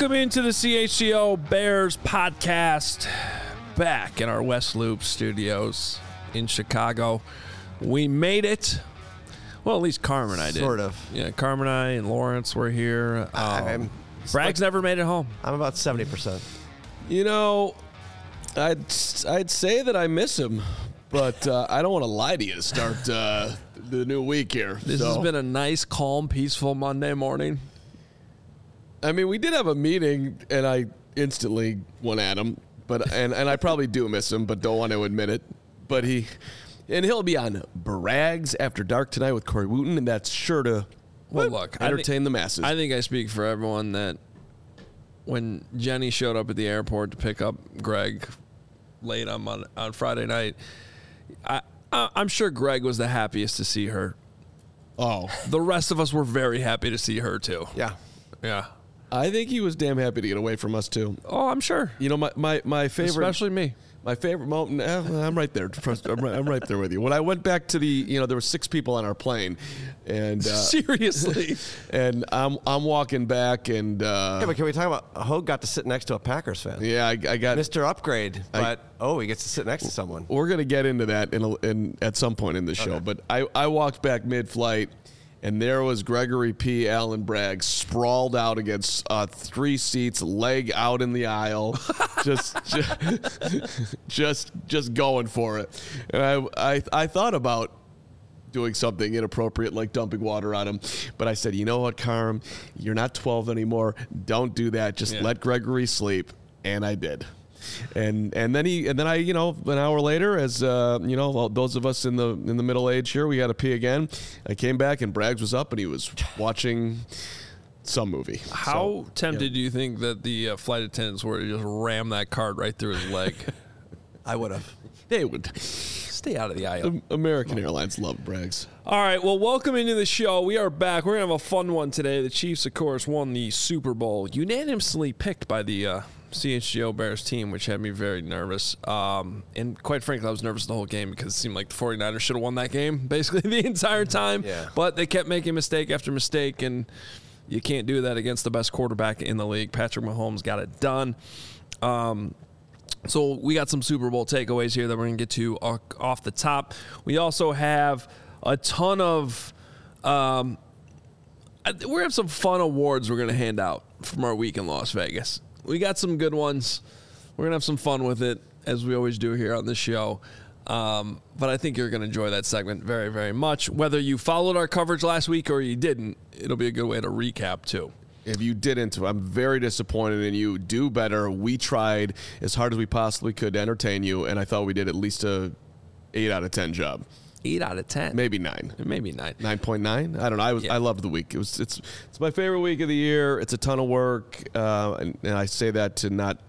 Welcome into the CHGO Bears podcast. Back in our West Loop studios in Chicago. We made it. Well, at least Carm and I did. Sort of. Yeah, Carm and I and Lawrence were here. Bragg's never made it home. I'm about 70%. You know, I'd say that I miss him, but I don't want to lie to you to start the new week here. This has been a nice, calm, peaceful Monday morning. I mean, we did have a meeting, and I instantly went at him, and I probably do miss him, but don't want to admit it. But he'll be on Brags After Dark tonight with Corey Wooten, and that's sure to entertain the masses. I think I speak for everyone that when Jenny showed up at the airport to pick up Greg late on Friday night, I'm sure Greg was the happiest to see her. Oh. The rest of us were very happy to see her, too. Yeah. Yeah. I think he was damn happy to get away from us, too. Oh, I'm sure. You know, my favorite... Especially me. My favorite moment, I'm right there. I'm right there with you. When I went back to there were 6 people on our plane, and seriously, and I'm walking back, and yeah, but can we talk about Hogue got to sit next to a Packers fan? Yeah, I got Mr. Upgrade, but he gets to sit next to someone. We're gonna get into that in at some point in the show, but I walked back mid-flight. And there was Gregory P. Allen Bragg sprawled out against 3 seats, leg out in the aisle, just going for it. And I thought about doing something inappropriate like dumping water on him, but I said, you know what, Carm, you're not 12 anymore. Don't do that. Just let Gregory sleep. And I did. And then I an hour later, as those of us in the middle age here, we got to pee again. I came back and Braggs was up and he was watching some movie. How tempted do you think that the flight attendants were to just ram that card right through his leg? I would have. They would stay out of the aisle. American Airlines love Braggs. All right, well, welcome into the show. We are back. We're gonna have a fun one today. The Chiefs, of course, won the Super Bowl, unanimously picked by the CHGO Bears team, which had me very nervous. And quite frankly, I was nervous the whole game because it seemed like the 49ers should have won that game basically the entire time. Yeah. But they kept making mistake after mistake, and you can't do that against the best quarterback in the league. Patrick Mahomes got it done. So we got some Super Bowl takeaways here that we're going to get to off the top. We also have a ton of we're going to have some fun awards we're going to hand out from our week in Las Vegas. We got some good ones. We're going to have some fun with it, as we always do here on the show. But I think you're going to enjoy that segment very, very much. Whether you followed our coverage last week or you didn't, it'll be a good way to recap, too. If you didn't, I'm very disappointed in you. Do better. We tried as hard as we possibly could to entertain you, and I thought we did at least a 8 out of 10 job. 8 out of 10. Maybe 9. Maybe 9. 9.9. I don't know. I loved the week. It's my favorite week of the year. It's a ton of work, and I say that to not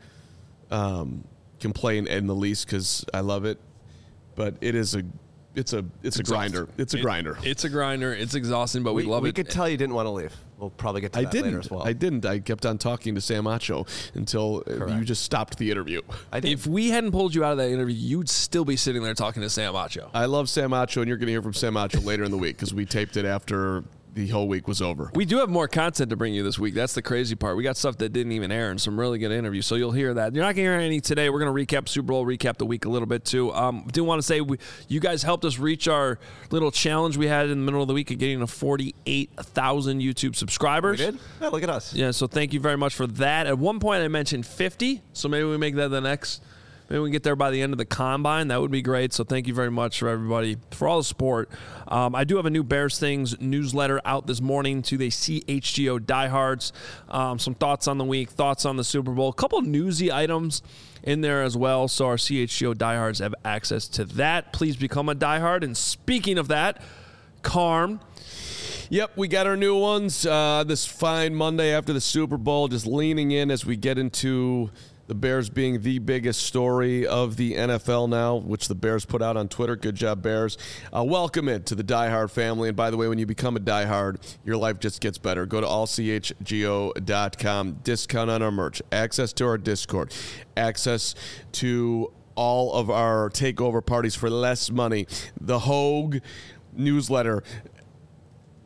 complain in the least because I love it. But it's a grinder. It's a grinder. It's a grinder. It's exhausting, but we love it. We could tell you didn't want to leave. We'll probably get to that later as well. I didn't. I kept on talking to Sam Acho until you just stopped the interview. If we hadn't pulled you out of that interview, you'd still be sitting there talking to Sam Acho. I love Sam Acho, and you're going to hear from Sam Acho later in the week because we taped it after the whole week was over. We do have more content to bring you this week. That's the crazy part. We got stuff that didn't even air and some really good interviews, so you'll hear that. You're not going to hear any today. We're going to recap Super Bowl, recap the week a little bit, too. Do want to say you guys helped us reach our little challenge we had in the middle of the week of getting to 48,000 YouTube subscribers. We did? Yeah, look at us. Yeah, so thank you very much for that. At one point, I mentioned 50, so maybe we make that the next. Maybe we can get there by the end of the Combine. That would be great. So thank you very much for everybody, for all the support. I do have a new Bears Things newsletter out this morning to the CHGO diehards. Some thoughts on the week, thoughts on the Super Bowl. A couple newsy items in there as well. So our CHGO diehards have access to that. Please become a diehard. And speaking of that, Carm. Yep, we got our new ones this fine Monday after the Super Bowl, just leaning in as we get into the Bears being the biggest story of the NFL now, which the Bears put out on Twitter. Good job, Bears. Welcome to the Die Hard family. And by the way, when you become a Die Hard, your life just gets better. Go to allchgo.com. Discount on our merch. Access to our Discord. Access to all of our takeover parties for less money. The Hogue newsletter.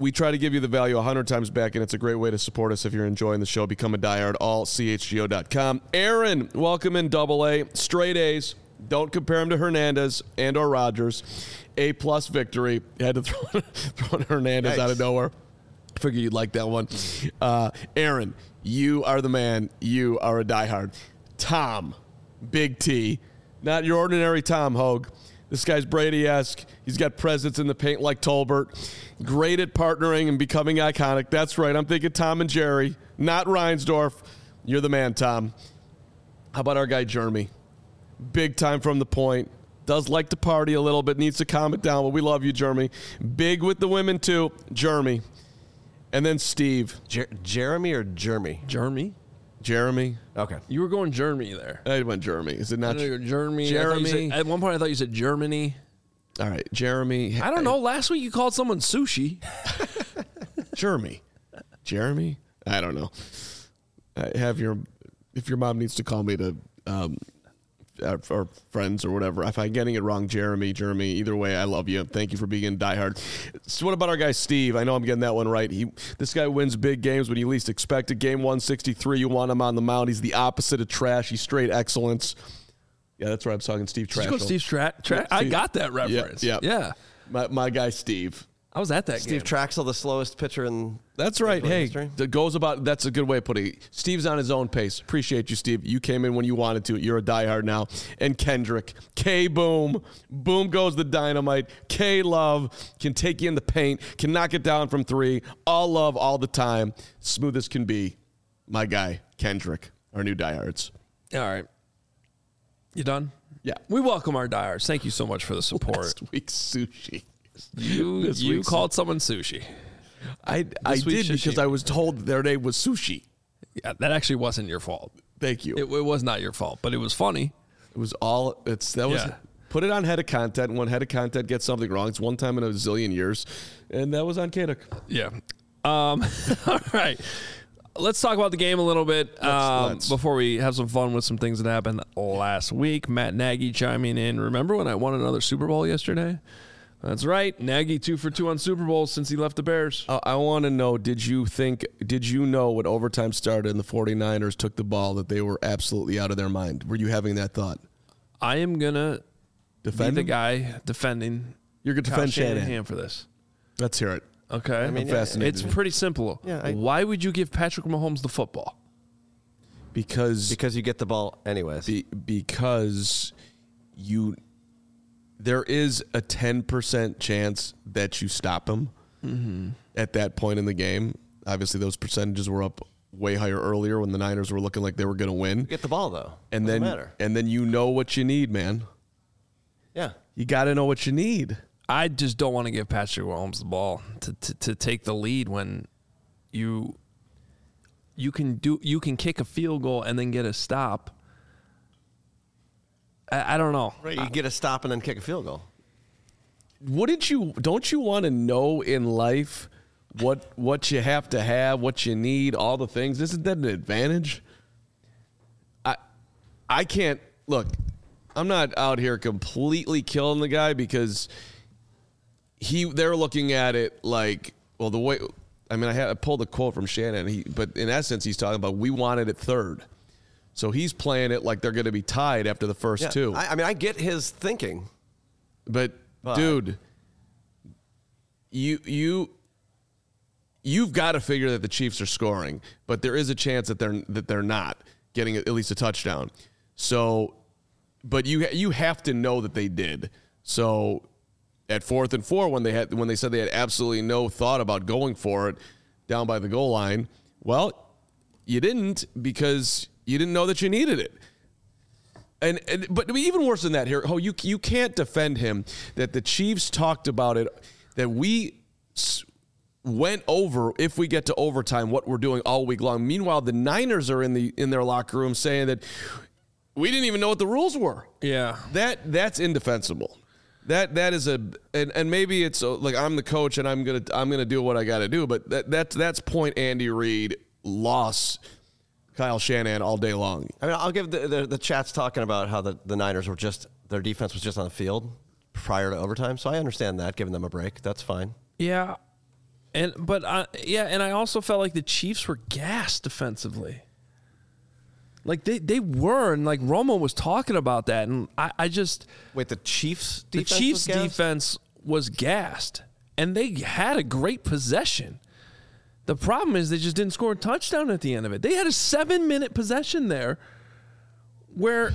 We try to give you the value 100 times back, and it's a great way to support us if you're enjoying the show. Become a diehard, allchgo.com. Aaron, welcome in AA. Straight A's. Don't compare him to Hernandez and or Rodgers. A-plus victory. Had to throw in Hernandez out of nowhere. Figure you'd like that one. Aaron, you are the man. You are a diehard. Tom, Big T. Not your ordinary Tom Hogue. This guy's Brady-esque. He's got presence in the paint like Tolbert. Great at partnering and becoming iconic. That's right. I'm thinking Tom and Jerry, not Reinsdorf. You're the man, Tom. How about our guy, Jeremy? Big time from the point. Does like to party a little bit. Needs to calm it down, but we love you, Jeremy. Big with the women, too. Jeremy. And then Steve. Jeremy or Jeremy? Jeremy. Okay. You were going Jeremy there. I went Jeremy. Is it not Jeremy? Jeremy. At one point, I thought you said Germany. All right, Jeremy. I don't know. Last week, you called someone sushi. Jeremy? I don't know. If your mom needs to call me to or friends or whatever, if I'm getting it wrong, Jeremy, either way, I love you. Thank you for being diehard. So what about our guy Steve? I know I'm getting that one right. This guy wins big games when you least expect it. Game 163, you want him on the mound. He's the opposite of trash. He's straight excellence. Yeah, that's right. I'm talking Steve Trash. Did you go Steve Trash? I got that reference. Yeah. My guy Steve. I was at that Steve game. Traxel, the slowest pitcher in. That's right. Hey, history. That's a good way of putting it. Steve's on his own pace. Appreciate you, Steve. You came in when you wanted to. You're a diehard now. And Kendrick. K-Boom. Boom goes the dynamite. K-Love. Can take you in the paint. Can knock it down from three. All love all the time. Smooth as can be. My guy, Kendrick. Our new diehards. All right. You done? Yeah. We welcome our diehards. Thank you so much for the support. Last week's sushi. You called someone sushi. I did because I was told their name was Sushi. Yeah, that actually wasn't your fault. Thank you. It was not your fault, but it was funny. It was all. Put it on head of content. When head of content gets something wrong, it's one time in a zillion years, and that was on Kaduk. Yeah. All right. Let's talk about the game a little bit before we have some fun with some things that happened last week. Matt Nagy chiming in. Remember when I won another Super Bowl yesterday? That's right. Nagy 2 for 2 on Super Bowls since he left the Bears. I want to know, did you know when overtime started and the 49ers took the ball that they were absolutely out of their mind? Were you having that thought? I am going to be the guy defending. You're going to defend Shanahan for this. Let's hear it. Okay. I'm fascinated. It's pretty simple. Yeah, why would you give Patrick Mahomes the football? Because you get the ball anyways. Because there is a 10% chance that you stop him at that point in the game. Obviously, those percentages were up way higher earlier when the Niners were looking like they were going to win. Get the ball, though. And Doesn't matter. And then you know what you need, man. Yeah. You got to know what you need. I just don't want to give Patrick Mahomes the ball to take the lead when you can kick a field goal and then get a stop. I don't know. Right, you get a stop and then kick a field goal. Don't you want to know in life what you have to have, what you need, all the things? Isn't that an advantage? I can't look. I'm not out here completely killing the guy because they're looking at it like, well, the way. I mean, I pulled a quote from Shannon, but in essence, he's talking about we wanted it third. So he's playing it like they're going to be tied after the first two. I mean, I get his thinking. But dude, you've got to figure that the Chiefs are scoring, but there is a chance that they're not getting at least a touchdown. So, but you have to know that they did. So at 4th and 4, when they said they had absolutely no thought about going for it down by the goal line, well, you didn't because you didn't know that you needed it. But even worse than that here, you can't defend him that the Chiefs talked about it, that we went over if we get to overtime what we're doing all week long. Meanwhile, the Niners are in their locker room saying that we didn't even know what the rules were. Yeah. That's indefensible. That is and maybe it's like I'm the coach and I'm gonna do what I got to do, but that's point Andy Reid loss Kyle Shanahan all day long. I mean, I'll give the chat's talking about how the Niners were their defense was just on the field prior to overtime, so I understand that, giving them a break. That's fine. Yeah. But I also felt like the Chiefs were gassed defensively. Like they were, and like Romo was talking about that, and I just Wait, the Chiefs defense was gassed, and they had a great possession. The problem is they just didn't score a touchdown at the end of it. They had a 7-minute possession there, where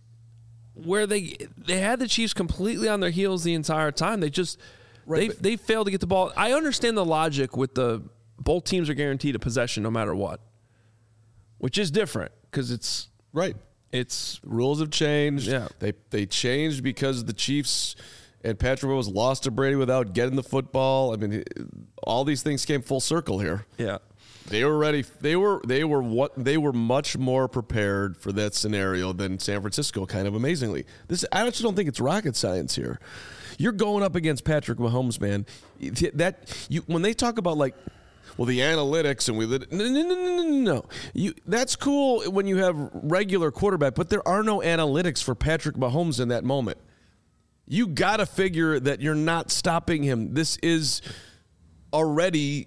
they had the Chiefs completely on their heels the entire time. They just they failed to get the ball. I understand the logic with both teams are guaranteed a possession no matter what, which is different because it's right. It's rules have changed. Yeah, they changed because the Chiefs and Patrick Mahomes lost to Brady without getting the football. I mean, all these things came full circle here. Yeah. They were ready. They were much more prepared for that scenario than San Francisco, kind of amazingly. I actually don't think it's rocket science here. You're going up against Patrick Mahomes, man. When they talk about like, well, the analytics and no. That's cool when you have regular quarterback, but there are no analytics for Patrick Mahomes in that moment. You got to figure that you're not stopping him. This is already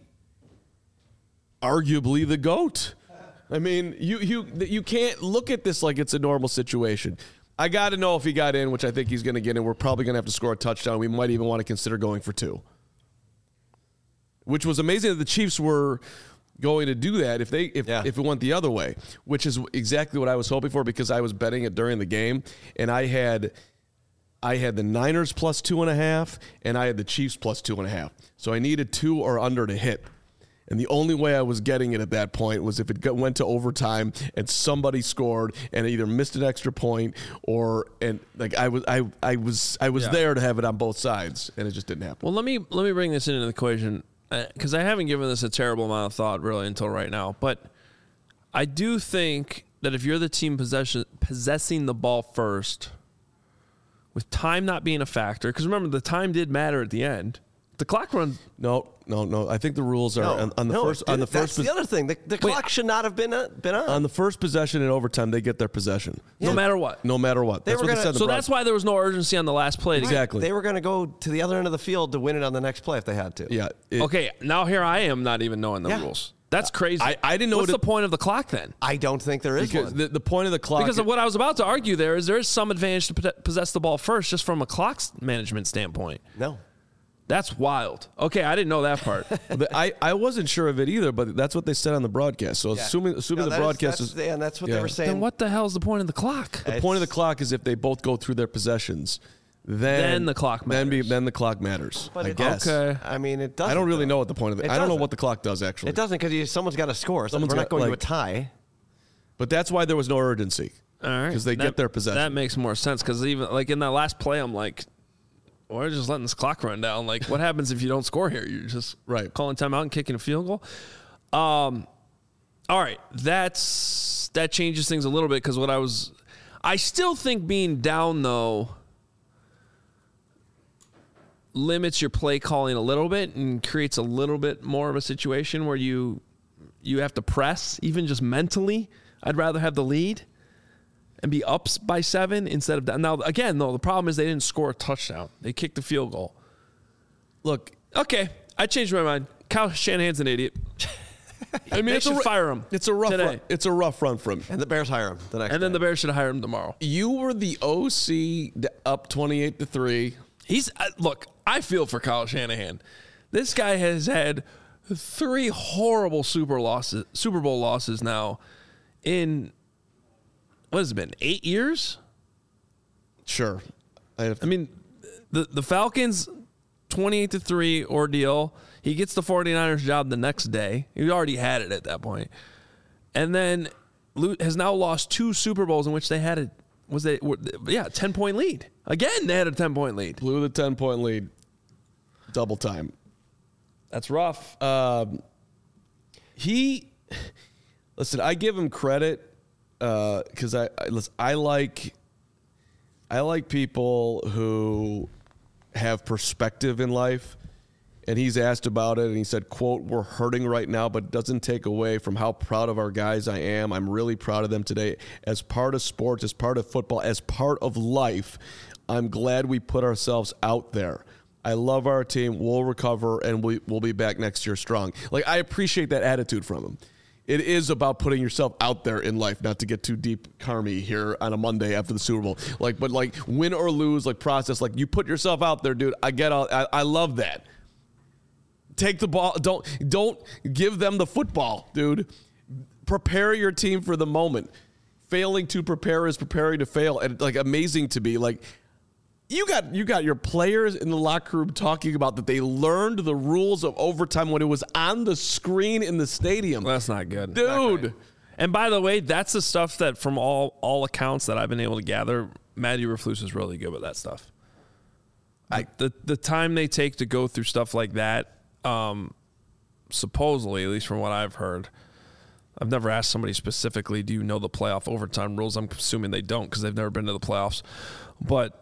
arguably the GOAT. I mean, you can't look at this like it's a normal situation. I got to know if he got in, which I think he's going to get in. We're probably going to have to score a touchdown. We might even want to consider going for 2. Which was amazing that the Chiefs were going to do that if it went the other way, which is exactly what I was hoping for because I was betting it during the game, and I had the Niners plus 2.5, and I had the Chiefs plus 2.5. So I needed 2 or under to hit. And the only way I was getting it at that point was if it went to overtime and somebody scored and either missed an extra point I was there to have it on both sides, and it just didn't happen. Well, let me bring this into the equation because I haven't given this a terrible amount of thought really until right now. But I do think that if you're the team possessing the ball first, with time not being a factor, because remember the time did matter at the end. The clock runs. No. I think the rules are on the first. That's the other thing. The clock should not have been on. On the first possession in overtime, they get their possession. Yeah. No matter what. That's what they said. So that's why there was no urgency on the last play. Exactly. They were going to go to the other end of the field to win it on the next play if they had to. Yeah. Okay. Now here I am not even knowing the rules. That's crazy. I didn't know. What's the point of the clock then? I don't think there is because one. The point of the clock. Because of what I was about to argue there is some advantage to possess the ball first just from a clock management standpoint. No. That's wild. Okay, I didn't know that part. I wasn't sure of it either, but that's what they said on the broadcast. So assuming the broadcast is and that's what they were saying. Then what the hell is the point of the clock? The point of the clock is if they both go through their possessions, then the clock matters. Then the clock matters. But I guess. Okay. I mean, it doesn't. I don't really know what the point of it. I don't know what the clock does actually. It doesn't because someone's got to score. So we're not going to a tie. But that's why there was no urgency. All right. Because they get their possession. That makes more sense because even like in that last play, I'm like, we're just letting this clock run down. Like, what happens if you don't score here? You're just calling timeout and kicking a field goal. All right, that changes things a little bit because I still think being down though limits your play calling a little bit and creates a little bit more of a situation where you have to press even just mentally. I'd rather have the lead and be up by 7 instead of down. Now, again, though, the problem is they didn't score a touchdown. They kicked the field goal. Look, okay, I changed my mind. Kyle Shanahan's an idiot. I mean, they should fire him. It's a rough run. It's a rough run for him. And the Bears hire him the next. And then the Bears should hire him tomorrow. You were the OC up 28-3. He's look. I feel for Kyle Shanahan. This guy has had 3 horrible Super Bowl losses now in. What has it been, 8 years? Sure. I mean, the Falcons, 28-3 ordeal. He gets the 49ers job the next day. He already had it at that point. And then has now lost 2 Super Bowls in which they had 10-point lead. Again, they had a 10-point lead. Blew the 10-point lead. Double time. That's rough. Listen, I give him credit. Because I like people who have perspective in life, and he's asked about it, and he said, "quote We're hurting right now, but it doesn't take away from how proud of our guys I am. I'm really proud of them today. As part of sports, as part of football, as part of life, I'm glad we put ourselves out there. I love our team. We'll recover, and we'll be back next year strong. Like, I appreciate that attitude from him. It is about putting yourself out there in life, not to get too deep Carmy here on a Monday after the Super Bowl. But win or lose, process. You put yourself out there, dude. I love that. Take the ball. Don't give them the football, dude. Prepare your team for the moment. Failing to prepare is preparing to fail. And amazing to be you got your players in the locker room talking about that they learned the rules of overtime when it was on the screen in the stadium. That's not good, dude. And by the way, that's the stuff that, from all accounts that I've been able to gather, Matt Eberflus is really good with that stuff. The time they take to go through stuff like that, supposedly, at least from what I've heard. I've never asked somebody specifically, do you know the playoff overtime rules? I'm assuming they don't because they've never been to the playoffs. But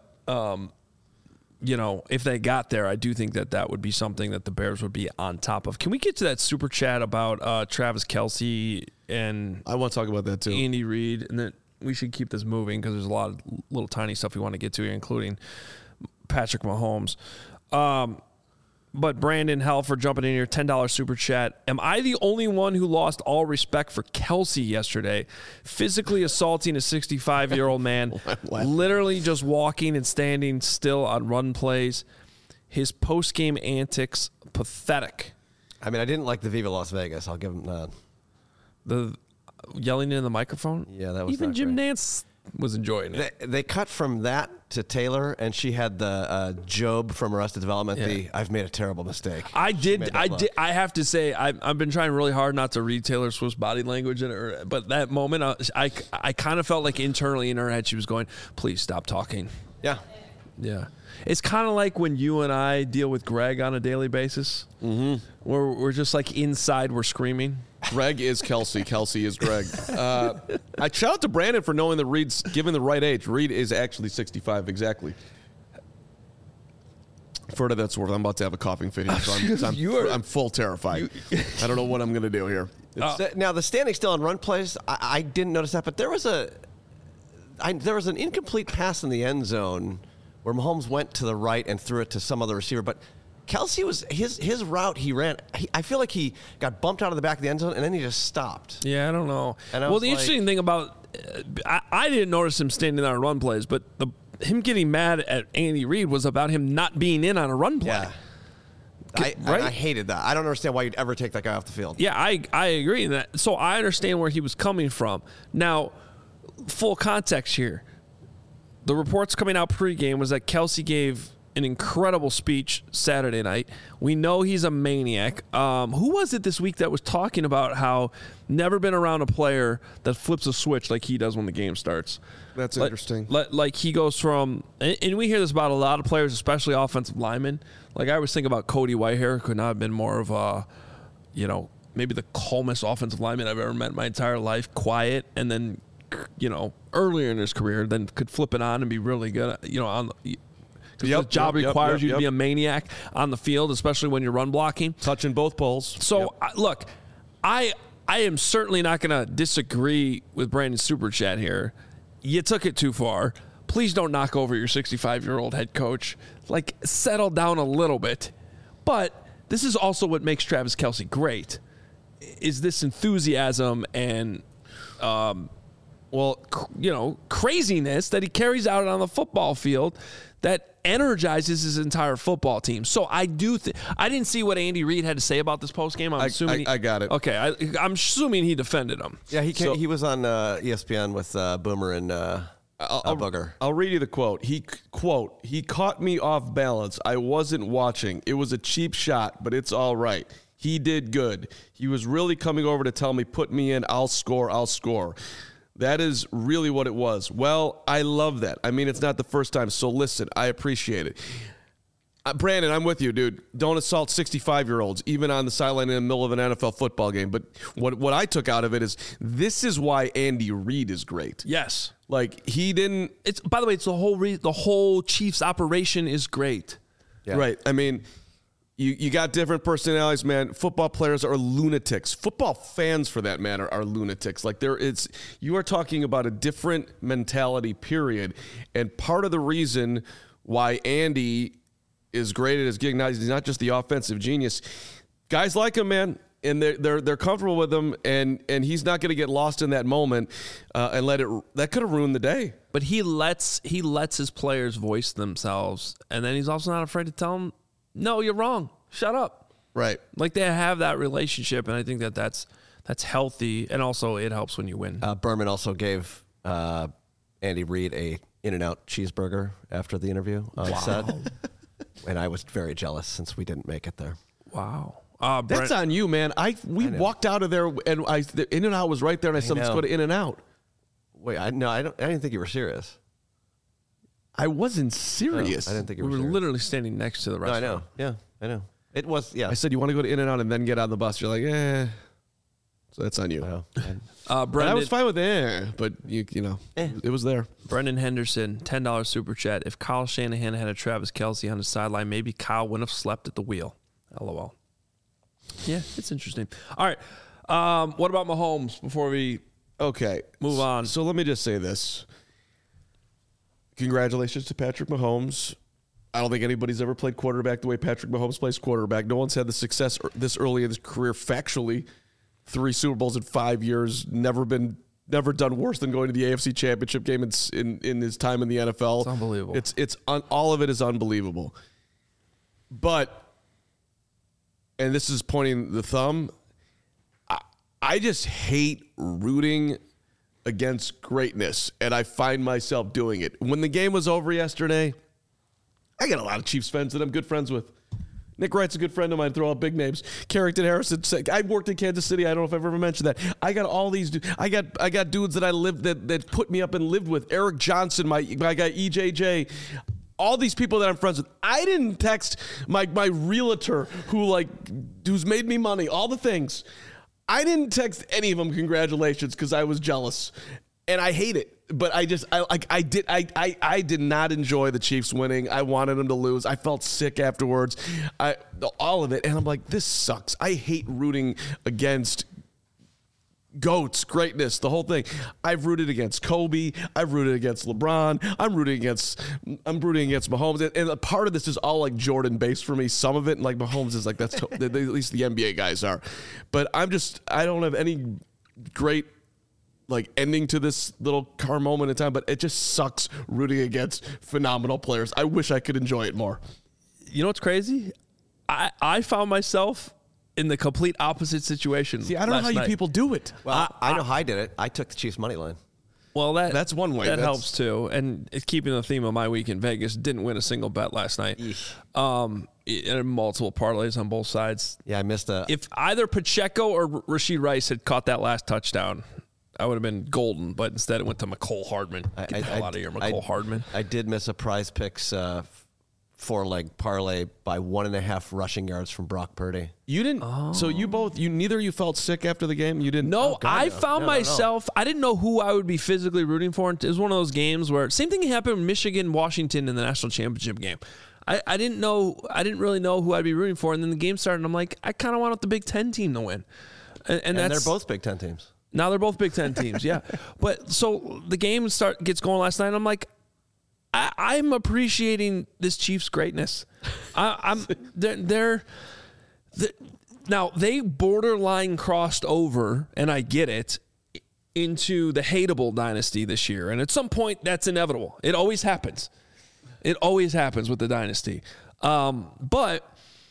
if they got there, I do think that would be something that the Bears would be on top of. Can we get to that super chat about Travis Kelce and I want to talk about that too, Andy Reid, and then we should keep this moving because there's a lot of little tiny stuff we want to get to here, including Patrick Mahomes. But Brandon Helfer jumping in here, $10 super chat. Am I the only one who lost all respect for Kelce yesterday? Physically assaulting a 65-year-old man, literally just walking and standing still on run plays. His post-game antics, pathetic. I mean, I didn't like the Viva Las Vegas. I'll give him that. The yelling in the microphone? Yeah, that was even not Jim great. Nance was enjoying it. They cut from that to Taylor, and she had the Job from Arrested Development. Yeah. I've made a terrible mistake. I have to say, I've been trying really hard not to read Taylor Swift's body language, but that moment, I kind of felt like internally in her head she was going, "Please stop talking." Yeah. Yeah. It's kind of like when you and I deal with Greg on a daily basis. Mm-hmm. We're just inside, we're screaming. Greg is Kelce. Kelce is Greg. I shout out to Brandon for knowing that Reed's given the right age. Reed is actually 65 exactly. For what that's worth, I'm about to have a coughing fit here, so I'm full terrified. I don't know what I'm going to do here. Now, the standing still on run plays, I didn't notice that, but there was an incomplete pass in the end zone where Mahomes went to the right and threw it to some other receiver, but Kelce was his route he ran. I feel like he got bumped out of the back of the end zone and then he just stopped. Yeah, I don't know. And the interesting thing about I didn't notice him standing on run plays, but him getting mad at Andy Reid was about him not being in on a run play. Yeah. I hated that. I don't understand why you'd ever take that guy off the field. Yeah, I agree in that. So I understand where he was coming from. Now, full context here. The reports coming out pregame was that Kelce gave an incredible speech Saturday night. We know he's a maniac. Who was it this week that was talking about how never been around a player that flips a switch like he does when the game starts? That's interesting. Like he goes from, and we hear this about a lot of players, especially offensive linemen. Like I always think about Cody Whitehair, could not have been more of a, maybe the calmest offensive lineman I've ever met in my entire life. Quiet, and then, earlier in his career, then could flip it on and be really good, on the. Because the job requires you to be a maniac on the field, especially when you're run blocking. Touching both poles. So, look, I am certainly not going to disagree with Brandon's super chat here. You took it too far. Please don't knock over your 65-year-old head coach. Settle down a little bit. But this is also what makes Travis Kelce great, is this enthusiasm and craziness that he carries out on the football field that energizes his entire football team. So I do I didn't see what Andy Reid had to say about this postgame. I'm assuming I got it. Okay, I'm assuming he defended him. Yeah, he was on ESPN with Boomer and Booger. I'll read you the quote. He caught me off balance. I wasn't watching. It was a cheap shot, but it's all right. He did good. He was really coming over to tell me, put me in, I'll score. That is really what it was. Well, I love that. I mean, it's not the first time, so listen, I appreciate it. Brandon, I'm with you, dude. Don't assault 65-year-olds, even on the sideline in the middle of an NFL football game. But what I took out of it is this is why Andy Reid is great. Yes. He didn't... It's by the way, it's the whole Chiefs operation is great. Yeah. Right. I mean... You got different personalities, man. Football players are lunatics. Football fans, for that matter, are lunatics. You are talking about a different mentality, period. And part of the reason why Andy is great at his gig. He's not just the offensive genius. Guys like him, man, and they're comfortable with him, and he's not going to get lost in that moment and that could have ruined the day. But he lets his players voice themselves, and then he's also not afraid to tell them, "No, you're wrong. Shut up." Right. Like they have that relationship, and I think that's healthy, and also it helps when you win. Berman also gave Andy Reid a In-N-Out cheeseburger after the interview on set. And I was very jealous since we didn't make it there. Wow. That's on you, man. We walked out of there, and the In-N-Out was right there, and I said, let's go to In-N-Out. Wait, I didn't think you were serious. I wasn't serious. I didn't think you We were were serious. literally standing next to the No, I restaurant. know. Yeah, I know. It was, yeah. I said, you want to go to In-N-Out and then get on the bus? You're like, eh. So that's on you. Well, But I was fine with but you know, it was there. Brendan Henderson, $10 super chat. If Kyle Shanahan had a Travis Kelce on the sideline, maybe Kyle wouldn't have slept at the wheel. LOL. Yeah, it's interesting. All right. What about Mahomes before we move on? So let me just say this. Congratulations to Patrick Mahomes. I don't think anybody's ever played quarterback the way Patrick Mahomes plays quarterback. No one's had the success this early in his career factually. 3 Super Bowls in 5 years, never done worse than going to the AFC Championship game in his time in the NFL. It's unbelievable. It's all of it is unbelievable. But, and this is pointing the thumb, I just hate rooting against greatness, and I find myself doing it. When the game was over yesterday, I got a lot of Chiefs fans that I'm good friends with. Nick Wright's a good friend of mine. Throw out big names. Carrington Harrison. I worked in Kansas City. I don't know if I've ever mentioned that. I got all these. I got dudes that I lived that put me up and lived with. Eric Johnson, my guy EJJ. All these people that I'm friends with. I didn't text my realtor who's made me money. All the things. I didn't text any of them congratulations because I was jealous, and I hate it. But I did not enjoy the Chiefs winning. I wanted them to lose. I felt sick afterwards. All of it. And I'm like, this sucks. I hate rooting against GOATs, greatness, the whole thing. I've rooted against Kobe. I've rooted against LeBron. I'm rooting against Mahomes. And a part of this is all like Jordan based for me. Some of it, like Mahomes is like, that's at least the NBA guys are. But I don't have any great ending to this little car moment in time, but it just sucks rooting against phenomenal players. I wish I could enjoy it more. You know what's crazy? I found myself in the complete opposite situation. See, I don't know how you people do it. Well, I know how I did it. I took the Chiefs money line. Well, that's one way. That helps too. And it's keeping the theme of my week in Vegas. Didn't win a single bet last night. And multiple parlays on both sides. Yeah, I missed a. If either Pacheco or Rashee Rice had caught that last touchdown, I would have been golden, but instead it went to McCole Hardman. Get the hell out of here, McCole Hardman. I did miss a Prize Picks 4-leg parlay by 1.5 rushing yards from Brock Purdy. You didn't. Oh. So neither of you felt sick after the game? You didn't? No, I found myself, I didn't know who I would be physically rooting for. It was one of those games where, same thing happened with Michigan-Washington in the national championship game. I didn't really know who I'd be rooting for, and then the game started, and I'm like, I kind of want the Big Ten team to win. And they're both Big Ten teams. Now they're both Big Ten teams, yeah. But so the game gets going last night, and I'm like, I'm appreciating this Chiefs greatness. Now they borderline crossed over, and I get it, into the hateable dynasty this year. And at some point, that's inevitable. It always happens. It always happens with the dynasty. But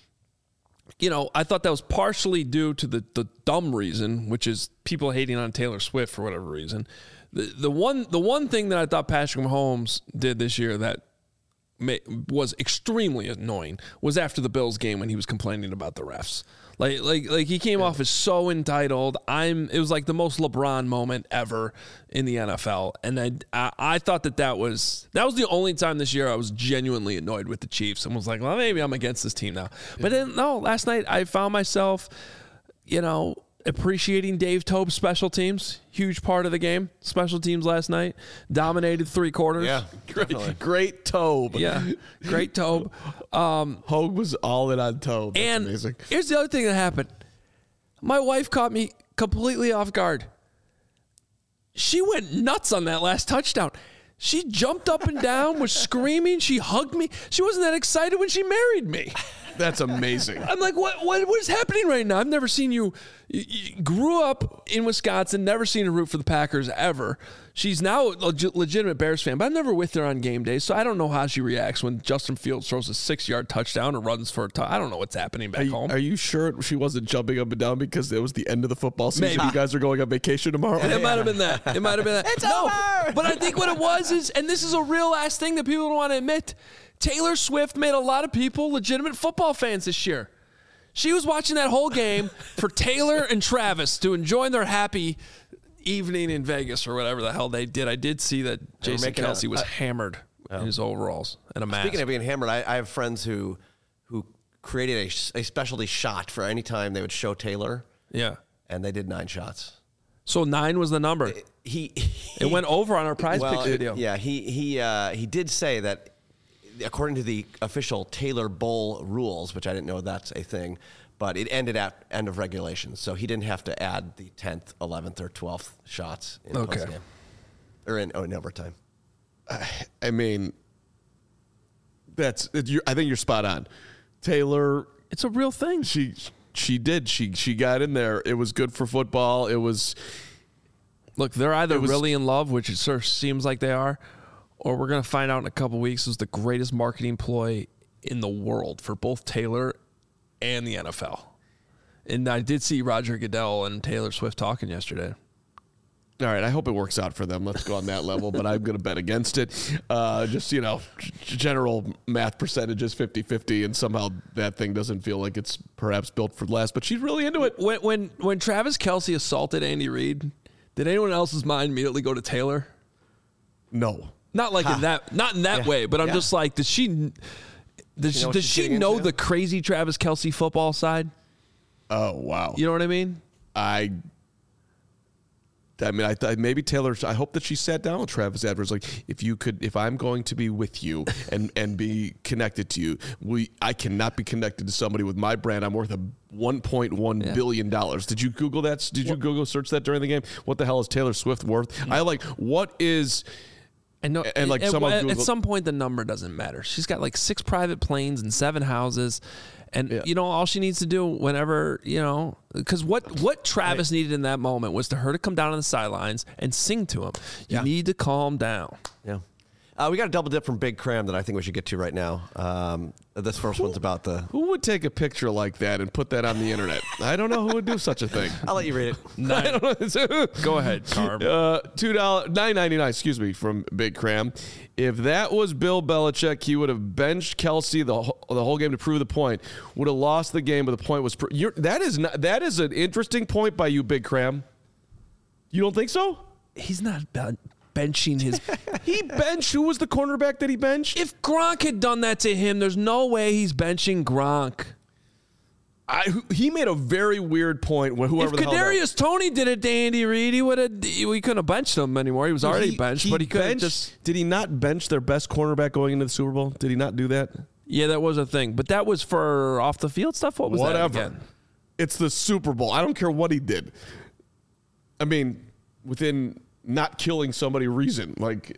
I thought that was partially due to the dumb reason, which is people hating on Taylor Swift for whatever reason. The one thing that I thought Patrick Mahomes did this year that was extremely annoying was after the Bills game when he was complaining about the refs. Like he came off as so entitled. It was like the most LeBron moment ever in the NFL, and I thought that was the only time this year I was genuinely annoyed with the Chiefs and was like, well, maybe I'm against this team now. Yeah. But then no, last night I found myself, appreciating Dave Tobe's special teams. Huge part of the game. Special teams last night dominated 3 quarters. Yeah, great Tobe. Yeah, great Tobe. Hogue was all in on Tobe. That's and amazing. Here's the other thing that happened. My wife caught me completely off guard. She went nuts on that last touchdown. She jumped up and down, was screaming. She hugged me. She wasn't that excited when she married me. That's amazing. I'm like, what is happening right now? I've never seen you grew up in Wisconsin, never seen her root for the Packers ever. She's now a legitimate Bears fan, but I'm never with her on game days, so I don't know how she reacts when Justin Fields throws a 6-yard touchdown or runs for a touchdown. I don't know what's happening back home. Are you sure she wasn't jumping up and down because it was the end of the football season? Maybe. You guys are going on vacation tomorrow? It might have been that. It might have been that. It's over! But I think what it was is, and this is a real ass thing that people don't want to admit, Taylor Swift made a lot of people legitimate football fans this year. She was watching that whole game for Taylor and Travis to enjoy their happy evening in Vegas or whatever the hell they did. I did see that Jason Kelce was hammered in his overalls and a mask. Speaking of being hammered, I have friends who created a specialty shot for any time they would show Taylor. Yeah. And they did 9 shots. So 9 was the number. It went over on our prize picks video. Yeah, he did say that according to the official Taylor Bowl rules, which I didn't know that's a thing, but it ended at end of regulation. So he didn't have to add the 10th, 11th, or 12th shots in postgame. Or in overtime. I mean, I think you're spot on. Taylor, it's a real thing. She did. She got in there. It was good for football. It was. Look, they're either really in love, which it sort of seems like they are, or we're going to find out in a couple weeks is the greatest marketing ploy in the world for both Taylor and the NFL. And I did see Roger Goodell and Taylor Swift talking yesterday. All right, I hope it works out for them. Let's go on that level, but I'm going to bet against it. Just, general math percentages, 50-50, and somehow that thing doesn't feel like it's perhaps built for last, but she's really into it. When Travis Kelce assaulted Andy Reid, did anyone else's mind immediately go to Taylor? No. Not like in that way, but I'm just like, does she know the crazy Travis Kelce football side? Oh, wow. You know what I mean? I maybe Taylor. I hope that she sat down with Travis afterwards. Like, if I'm going to be with you and be connected to you, I cannot be connected to somebody with my brand. I'm worth $1.1 billion. Did you Google that? Did you Google search that during the game? What the hell is Taylor Swift worth? What is? And no, at some point the number doesn't matter. She's got like 6 private planes and 7 houses. And, all she needs to do whenever, because what Travis needed in that moment was her to come down on the sidelines and sing to him. You need to calm down. Yeah. We got a double dip from Big Cram that I think we should get to right now. This first one's about Who would take a picture like that and put that on the internet? I don't know who would do such a thing. I'll let you read it. Go ahead, Carm. $9.99, excuse me, from Big Cram. If that was Bill Belichick, he would have benched Kelce the whole game to prove the point. Would have lost the game, but the point was that is an interesting point by you, Big Cram. You don't think so? He's not benching his. He benched. Who was the cornerback that he benched? If Gronk had done that to him, there's no way he's benching Gronk. He made a very weird point when whoever if Kadarius Toney did it to Andy Reid, we couldn't have benched him anymore. He was already benched, but he could just. Did he not bench their best cornerback going into the Super Bowl? Did he not do that? Yeah, that was a thing, but that was for off the field stuff. What was that again? It's the Super Bowl. I don't care what he did. I mean, within not killing somebody reason, I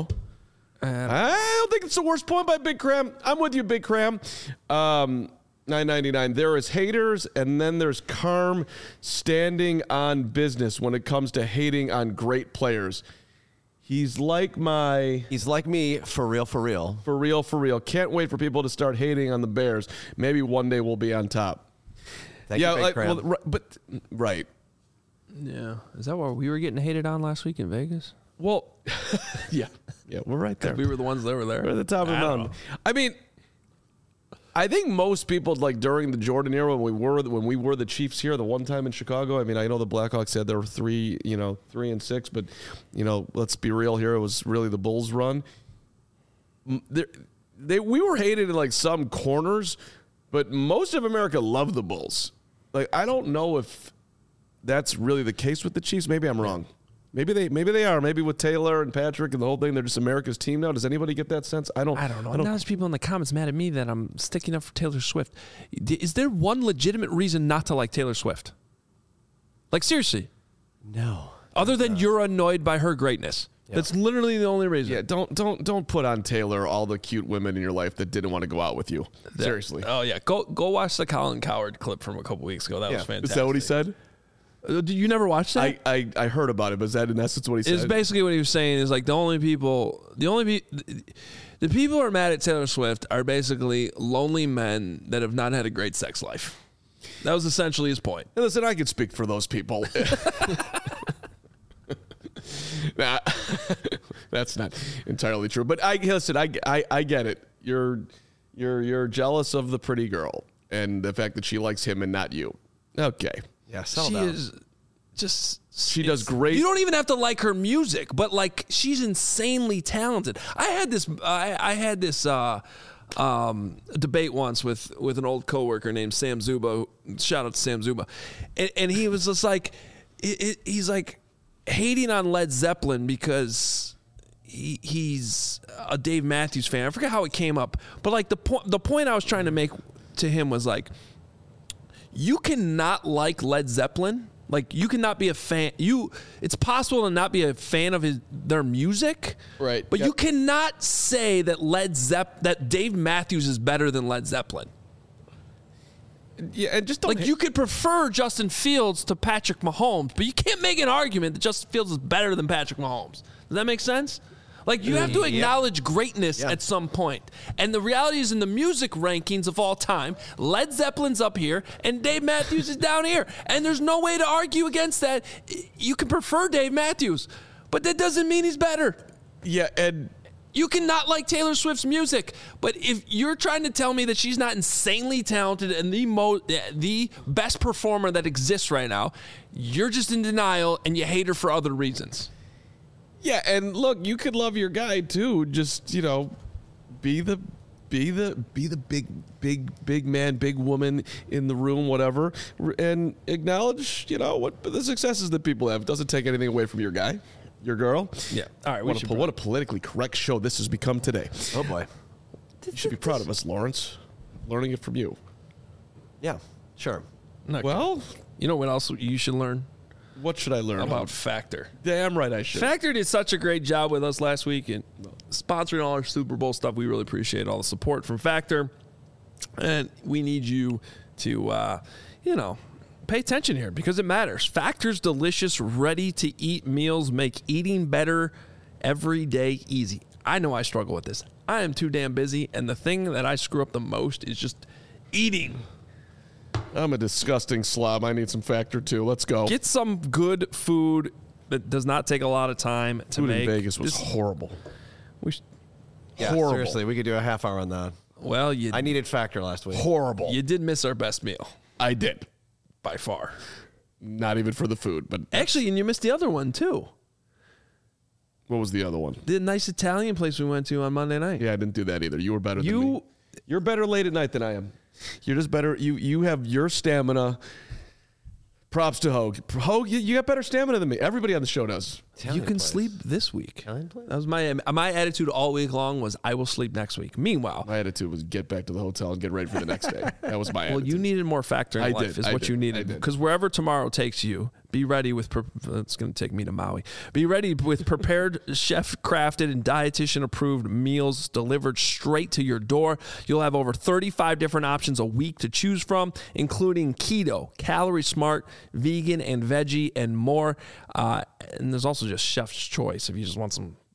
don't think it's the worst point by Big Cram. I'm with you, Big Cram. $9.99. There is haters, and then there's Carm standing on business when it comes to hating on great players. He's like me, for real. For real. Can't wait for people to start hating on the Bears. Maybe one day we'll be on top. Thank you, Big Cram. Right. Yeah. Is that what we were getting hated on last week in Vegas? Well, yeah, we're right there. We were the ones that were there. We're at the top of the mountain. I mean, I think most people, like during the Jordan era when we were the Chiefs here the one time in Chicago. I mean, I know the Blackhawks said there were 3-6, but let's be real here. It was really the Bulls' run. We were hated in like some corners, but most of America loved the Bulls. Like, I don't know if that's really the case with the Chiefs. Maybe I'm wrong. Maybe they are. Maybe with Taylor and Patrick and the whole thing, they're just America's team now. Does anybody get that sense? I don't know. Now there's people in the comments mad at me that I'm sticking up for Taylor Swift. Is there one legitimate reason not to like Taylor Swift? Like, seriously? No. Other than you're annoyed by her greatness. That's literally the only reason. Yeah, don't put on Taylor all the cute women in your life that didn't want to go out with you. Seriously. Oh yeah, go watch the Colin Cowherd clip from a couple weeks ago. That was fantastic. Is that what he said? Did you never watch that? I heard about it, but is that in essence what he said? It's basically what he was saying is like the people who are mad at Taylor Swift are basically lonely men that have not had a great sex life. That was essentially his point. Hey, listen, I can speak for those people. Nah, that's not entirely true. But I get it. You're jealous of the pretty girl and the fact that she likes him and not you. Okay. Yeah, she does great. You don't even have to like her music, but like she's insanely talented. I had this debate once with an old coworker named Sam Zuba. Shout out to Sam Zuba, and he was just like, he's like hating on Led Zeppelin because he's a Dave Matthews fan. I forget how it came up, but like the point I was trying to make to him was like, you cannot like Led Zeppelin. Like you cannot be a fan. It's possible to not be a fan of their music, right? But you cannot say that that Dave Matthews is better than Led Zeppelin. Yeah, and just don't you could prefer Justin Fields to Patrick Mahomes, but you can't make an argument that Justin Fields is better than Patrick Mahomes. Does that make sense? Like you have to acknowledge greatness at some point. And the reality is in the music rankings of all time, Led Zeppelin's up here and Dave Matthews is down here. And there's no way to argue against that. You can prefer Dave Matthews, but that doesn't mean he's better. Yeah, and you cannot like Taylor Swift's music, but if you're trying to tell me that she's not insanely talented and the best performer that exists right now, you're just in denial and you hate her for other reasons. Yeah, and look, you could love your guy too. Just be the big man, big woman in the room, whatever, and acknowledge what the successes that people have. It doesn't take anything away from your guy. Your girl? Yeah. All right. What a politically correct show this has become today. Oh, boy. You should be proud of us, Lawrence. Learning it from you. Yeah, sure. Well, you know what else you should learn? What should I learn about Factor? Damn right I should. Factor did such a great job with us last week and sponsoring all our Super Bowl stuff. We really appreciate all the support from Factor. And we need you to, pay attention here because it matters. Factor's delicious, ready-to-eat meals make eating better every day easy. I know I struggle with this. I am too damn busy, and the thing that I screw up the most is just eating. I'm a disgusting slob. I need some Factor too. Let's go. Get some good food that does not take a lot of time to make. Food in Vegas was horrible. Horrible. Seriously, we could do a half hour on that. Well, I needed Factor last week. Horrible. You did miss our best meal. I did. By far. Not even for the food, but actually, and you missed the other one too. What was the other one? The nice Italian place we went to on Monday night. Yeah, I didn't do that either. You were better than me. You're better late at night than I am. You're just better. You have your stamina. Props to Hogue. Hogue, you got better stamina than me. Everybody on the show does. You can sleep this week. Italian place? That was my attitude all week long was I will sleep next week. Meanwhile, my attitude was get back to the hotel and get ready for the next day. That was my attitude. Well, you needed more Factor in life is what you needed. Because wherever tomorrow takes you, be ready with, it's going to take me to Maui. Be ready with prepared, chef-crafted, and dietitian-approved meals delivered straight to your door. You'll have over 35 different options a week to choose from, including keto, calorie smart, vegan, and veggie, and more. And there's also just chef's choice if you just want some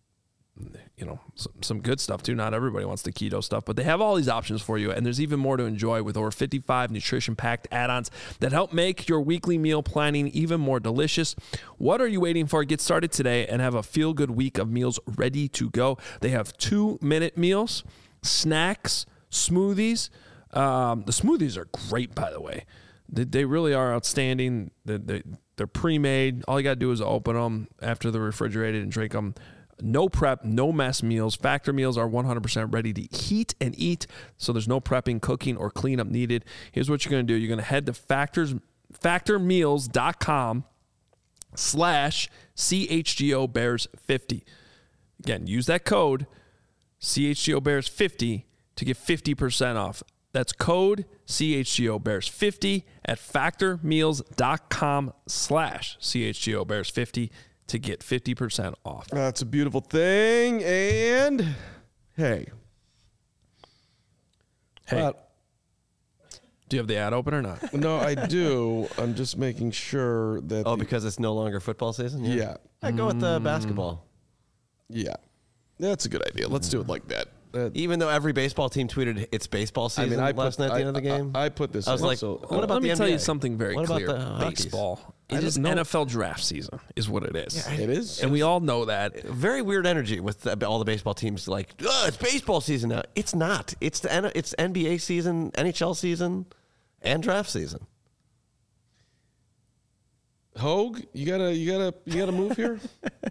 good stuff too. Not everybody wants the keto stuff, but they have all these options for you. And there's even more to enjoy with over 55 nutrition-packed add-ons that help make your weekly meal planning even more delicious. What are you waiting for? Get started today and have a feel-good week of meals ready to go. They have 2-minute meals, snacks, smoothies. The smoothies are great, by the way. They really are outstanding. They're pre-made. All you got to do is open them after they're refrigerated and drink them. No prep, no mess meals. Factor meals are 100% ready to heat and eat, so there's no prepping, cooking, or cleanup needed. Here's what you're going to do. You're going to head to factormeals.com/CHGOBears50. Again, use that code CHGOBears50 to get 50% off. That's code CHGOBears50 at factormeals.com/CHGOBears50 to get 50% off. That's a beautiful thing. And hey. Do you have the ad open or not? No, I do. I'm just making sure that. Oh, because it's no longer football season? Yeah. I go with the basketball. Yeah. That's a good idea. Let's do it like that. Even though every baseball team tweeted it's baseball season last night at the end of the game. I put this. I was in, like, so, what about Let me the tell NBA? you something very What about clear. the Hockeys? Baseball. It I is don't know. NFL draft season, is what it is. it is. And we all know that. Very weird energy with all the baseball teams. Like, it's baseball season now. It's not. It's NBA season, NHL season, and draft season. Hogue, you gotta move here.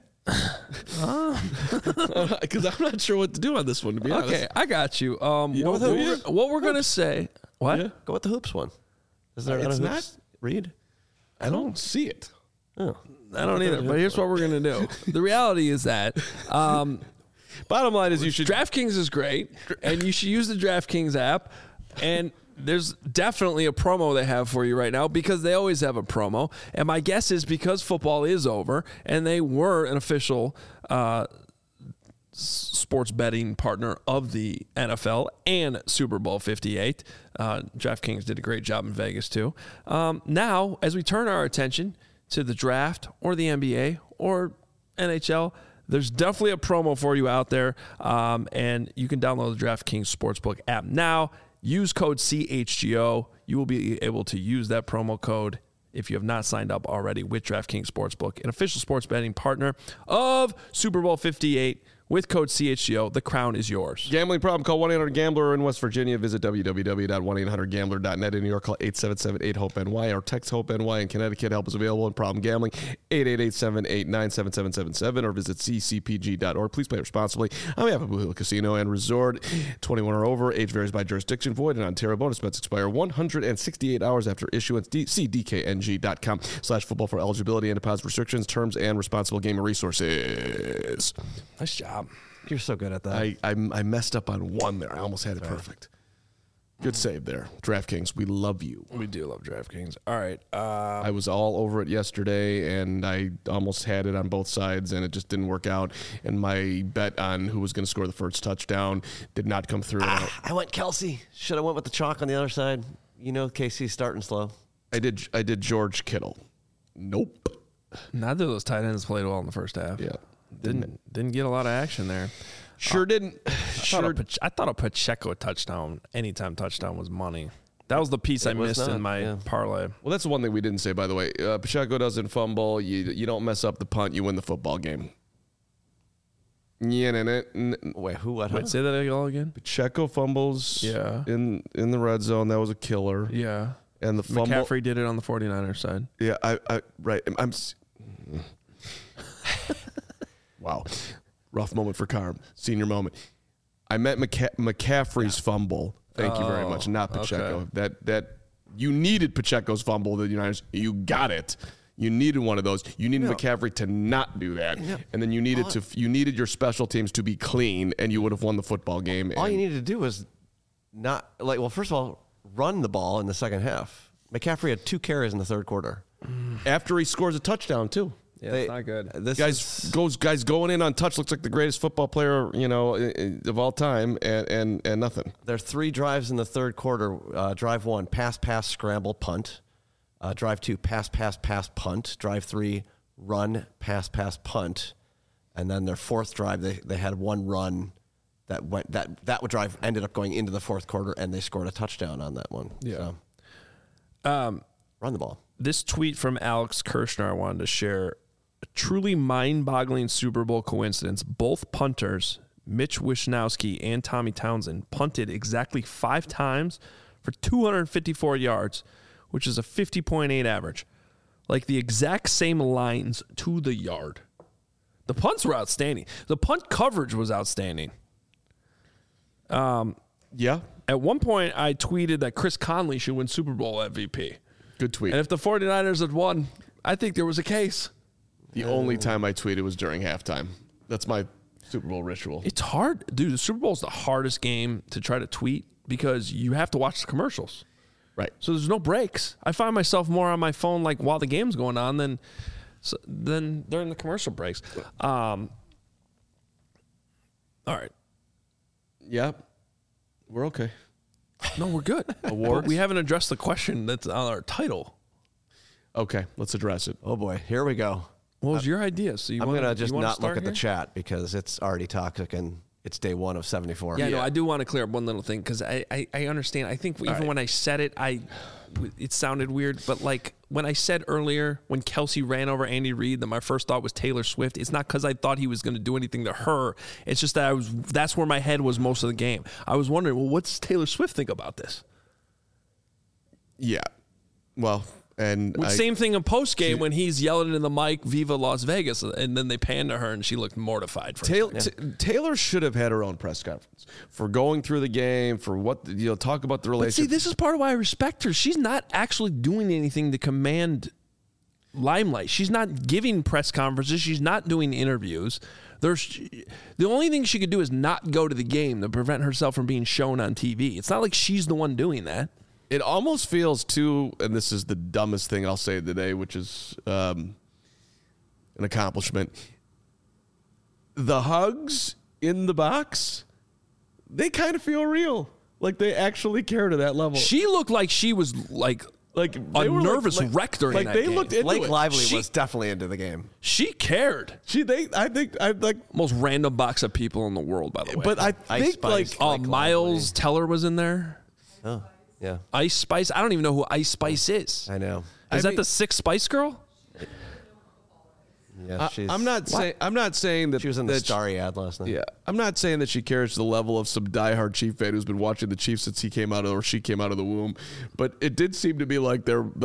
Because I'm not sure what to do on this one. To be honest. Okay, I got you. know What we're going to say. What? Yeah. Go with the hoops one. Is there It's a not- hoops read? I don't see it. Oh. I don't either. But here's what we're going to do. The reality is that Bottom line is you should. DraftKings is great, and you should use the DraftKings app. And there's definitely a promo they have for you right now because they always have a promo. And my guess is because football is over and they were an official sports betting partner of the NFL and Super Bowl 58. DraftKings did a great job in Vegas too. Now, as we turn our attention to the draft or the NBA or NHL, there's definitely a promo for you out there, and you can download the DraftKings Sportsbook app now. Use code CHGO. You will be able to use that promo code if you have not signed up already with DraftKings Sportsbook, an official sports betting partner of Super Bowl 58. With code CHGO, the crown is yours. Gambling problem? Call 1-800-GAMBLER. In West Virginia, visit www.1800gambler.net. In New York, call 877-8-HOPE-NY or text HOPE-NY. In Connecticut, help is available in problem gambling, 888-789-7777 or visit ccpg.org. Please play responsibly. On behalf of Blue Hill Casino and Resort, 21 or over. Age varies by jurisdiction. Void in Ontario. Bonus bets expire 168 hours after issuance. See dkng.com/football for eligibility and deposit restrictions, terms, and responsible gaming resources. Nice job. You're so good at that. I messed up on one there. I almost had it perfect. Good save there. DraftKings, we love you. We do love DraftKings. All right. I was all over it yesterday, and I almost had it on both sides, and it just didn't work out. And my bet on who was going to score the first touchdown did not come through. I went Kelsey. Should have went with the chalk on the other side. You know, KC's starting slow. I did George Kittle. Nope. Neither of those tight ends played well in the first half. Yeah. Didn't get a lot of action there. Didn't. I thought a Pacheco touchdown, anytime touchdown was money. That was the piece I was missed not, in my parlay. Well, that's the one thing we didn't say, by the way. Pacheco doesn't fumble. You don't mess up the punt. You win the football game. Yeah, Wait, who? What? Wait, say that all again? Pacheco fumbles. Yeah. In the red zone, that was a killer. Yeah. And the fumble. McCaffrey did it on the 49ers side. Yeah, I right. Wow, rough moment for Carm. Senior moment. I meant McCaffrey's fumble. Thank you very much. Not Pacheco. okay. That you needed Pacheco's fumble. The United, you got it. You needed one of those. You needed McCaffrey to not do that, and then you needed your special teams to be clean, and you would have won the football game. All you needed to do was not like. Well, first of all, run the ball in the second half. McCaffrey had 2 carries in the third quarter. After he scores a touchdown too. Yeah, it's not good. This Guys going in on touch looks like the greatest football player of all time, and nothing. There are 3 drives in the third quarter. Drive 1, pass, scramble, punt. Drive 2, pass, punt. Drive 3, run, pass, punt. And then their fourth drive, they had 1 run that went that drive ended up going into the fourth quarter, and they scored a touchdown on that one. Yeah. So, run the ball. This tweet from Alex Kirshner I wanted to share. A truly mind-boggling Super Bowl coincidence. Both punters, Mitch Wishnowsky and Tommy Townsend, punted exactly 5 times for 254 yards, which is a 50.8 average. Like the exact same lines to the yard. The punts were outstanding. The punt coverage was outstanding. Yeah, At one point, I tweeted that Chris Conley should win Super Bowl MVP. good tweet. And if the 49ers had won, I think there was a case. The only time I tweeted was during halftime. That's my Super Bowl ritual. It's hard. Dude, the Super Bowl is the hardest game to try to tweet because you have to watch the commercials. Right. So there's no breaks. I find myself more on my phone like while the game's going on than So then during the commercial breaks. All right. Yeah, we're okay. No, we're good. Awards? But we haven't addressed the question that's on our title. Okay, let's address it. Oh boy, here we go. What was your idea? So I'm gonna just not look at the here? chat because it's already toxic and it's day 1 of 74. Yeah, no, I do want to clear up one little thing because I understand. I think even when I said it, it sounded weird. But like when I said earlier, when Kelsey ran over Andy Reid, that my first thought was Taylor Swift. It's not because I thought he was going to do anything to her. It's just that that's where my head was most of the game. I was wondering, well, what's Taylor Swift think about this? Yeah, well, and Same thing in post game when he's yelling in the mic, "Viva Las Vegas," and then they pan to her and she looked mortified. Taylor should have had her own press conference for going through the game, for what talk about the But relationship. see, this is part of why I respect her. She's not actually doing anything to command limelight. She's not giving press conferences. She's not doing interviews. The only thing she could do is not go to the game to prevent herself from being shown on TV. It's not like she's the one doing that. It almost feels too, and this is the dumbest thing I'll say today, which is an accomplishment. The hugs in the box, they kind of feel real. Like they actually care to that level. She looked like she was like a nervous wreck during that they game. looked into Blake it. Lively was definitely into the game. She cared. I Most random box of people in the world, by the way. but I Ice think like Spice. Blake Miles Teller was in there. Oh, yeah. Ice Spice. I don't even know who Ice Spice is. I know. Is that the Sixth Spice Girl? Yeah, I'm not saying that she was in the that Starry ad last night. Yeah, I'm not saying that she cares to the level of some diehard Chief fan who's been watching the Chiefs since she came out of the womb, but it did seem to be like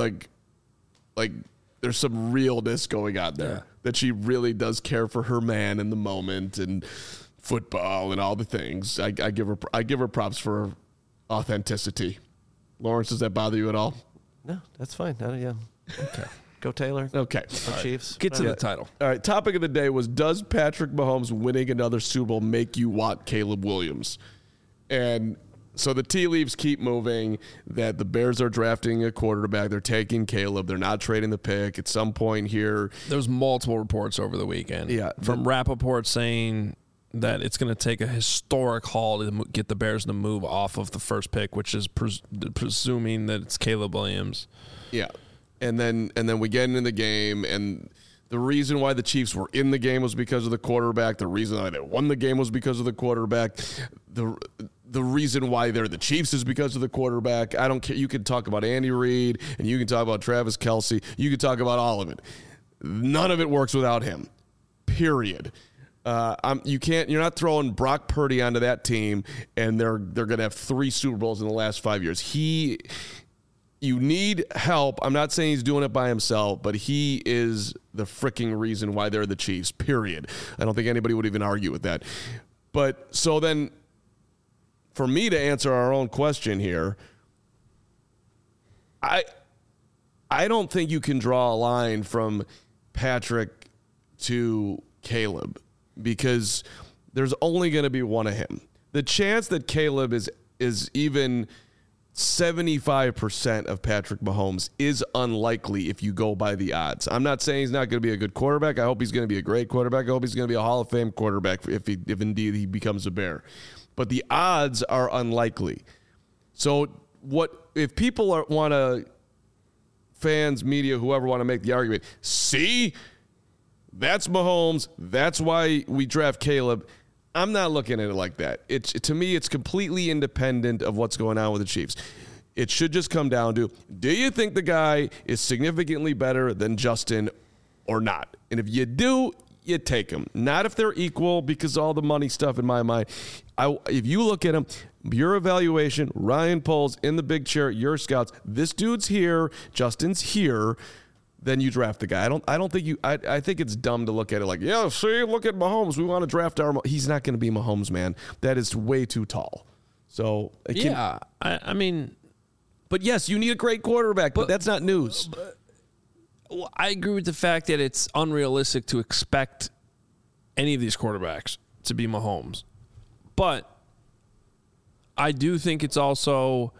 there's some realness going on there. Yeah. That she really does care for her man in the moment and football and all the things. I give her props for her authenticity. Lawrence, does that bother you at all? No, that's fine. Yeah. Okay. Go Taylor. Okay. Go Chiefs. Get to the title. All right, topic of the day was, does Patrick Mahomes winning another Super Bowl make you want Caleb Williams? And so the tea leaves keep moving that the Bears are drafting a quarterback. They're taking Caleb. They're not trading the pick at some point here. There's multiple reports over the weekend. Yeah. From Rappaport saying that it's going to take a historic haul to get the Bears to move off of the first pick, which is presuming that it's Caleb Williams. Yeah. And then we get into the game, and the reason why the Chiefs were in the game was because of the quarterback. The reason why they won the game was because of the quarterback. The reason why they're the Chiefs is because of the quarterback. I don't care. You can talk about Andy Reid, and you can talk about Travis Kelce. You can talk about all of it. None of it works without him. Period. You're not throwing Brock Purdy onto that team, and they're going to have 3 Super Bowls in the last 5 years. You need help. I'm not saying he's doing it by himself, but he is the freaking reason why they're the Chiefs, period. I don't think anybody would even argue with that. But so then, for me to answer our own question here, I don't think you can draw a line from Patrick to Caleb because there's only going to be one of him. The chance that Caleb is even 75% of Patrick Mahomes is unlikely if you go by the odds. I'm not saying he's not going to be a good quarterback. I hope he's going to be a great quarterback. I hope he's going to be a Hall of Fame quarterback if indeed he becomes a Bear. But the odds are unlikely. So what if people want to, fans, media, whoever want to make the argument, see, that's Mahomes. That's why we draft Caleb. I'm not looking at it like that. To me, it's completely independent of what's going on with the Chiefs. It should just come down to, do you think the guy is significantly better than Justin or not? And if you do, you take him. Not if they're equal, because all the money stuff in my mind. If you look at him, your evaluation, Ryan Poles in the big chair, your scouts, this dude's here, Justin's here, then you draft the guy. I think it's dumb to look at it like, yeah, see, look at Mahomes. We want to draft he's not going to be Mahomes, man. That is way too tall. So I mean, but yes, you need a great quarterback, but that's not news. I agree with the fact that it's unrealistic to expect any of these quarterbacks to be Mahomes. But I do think it's also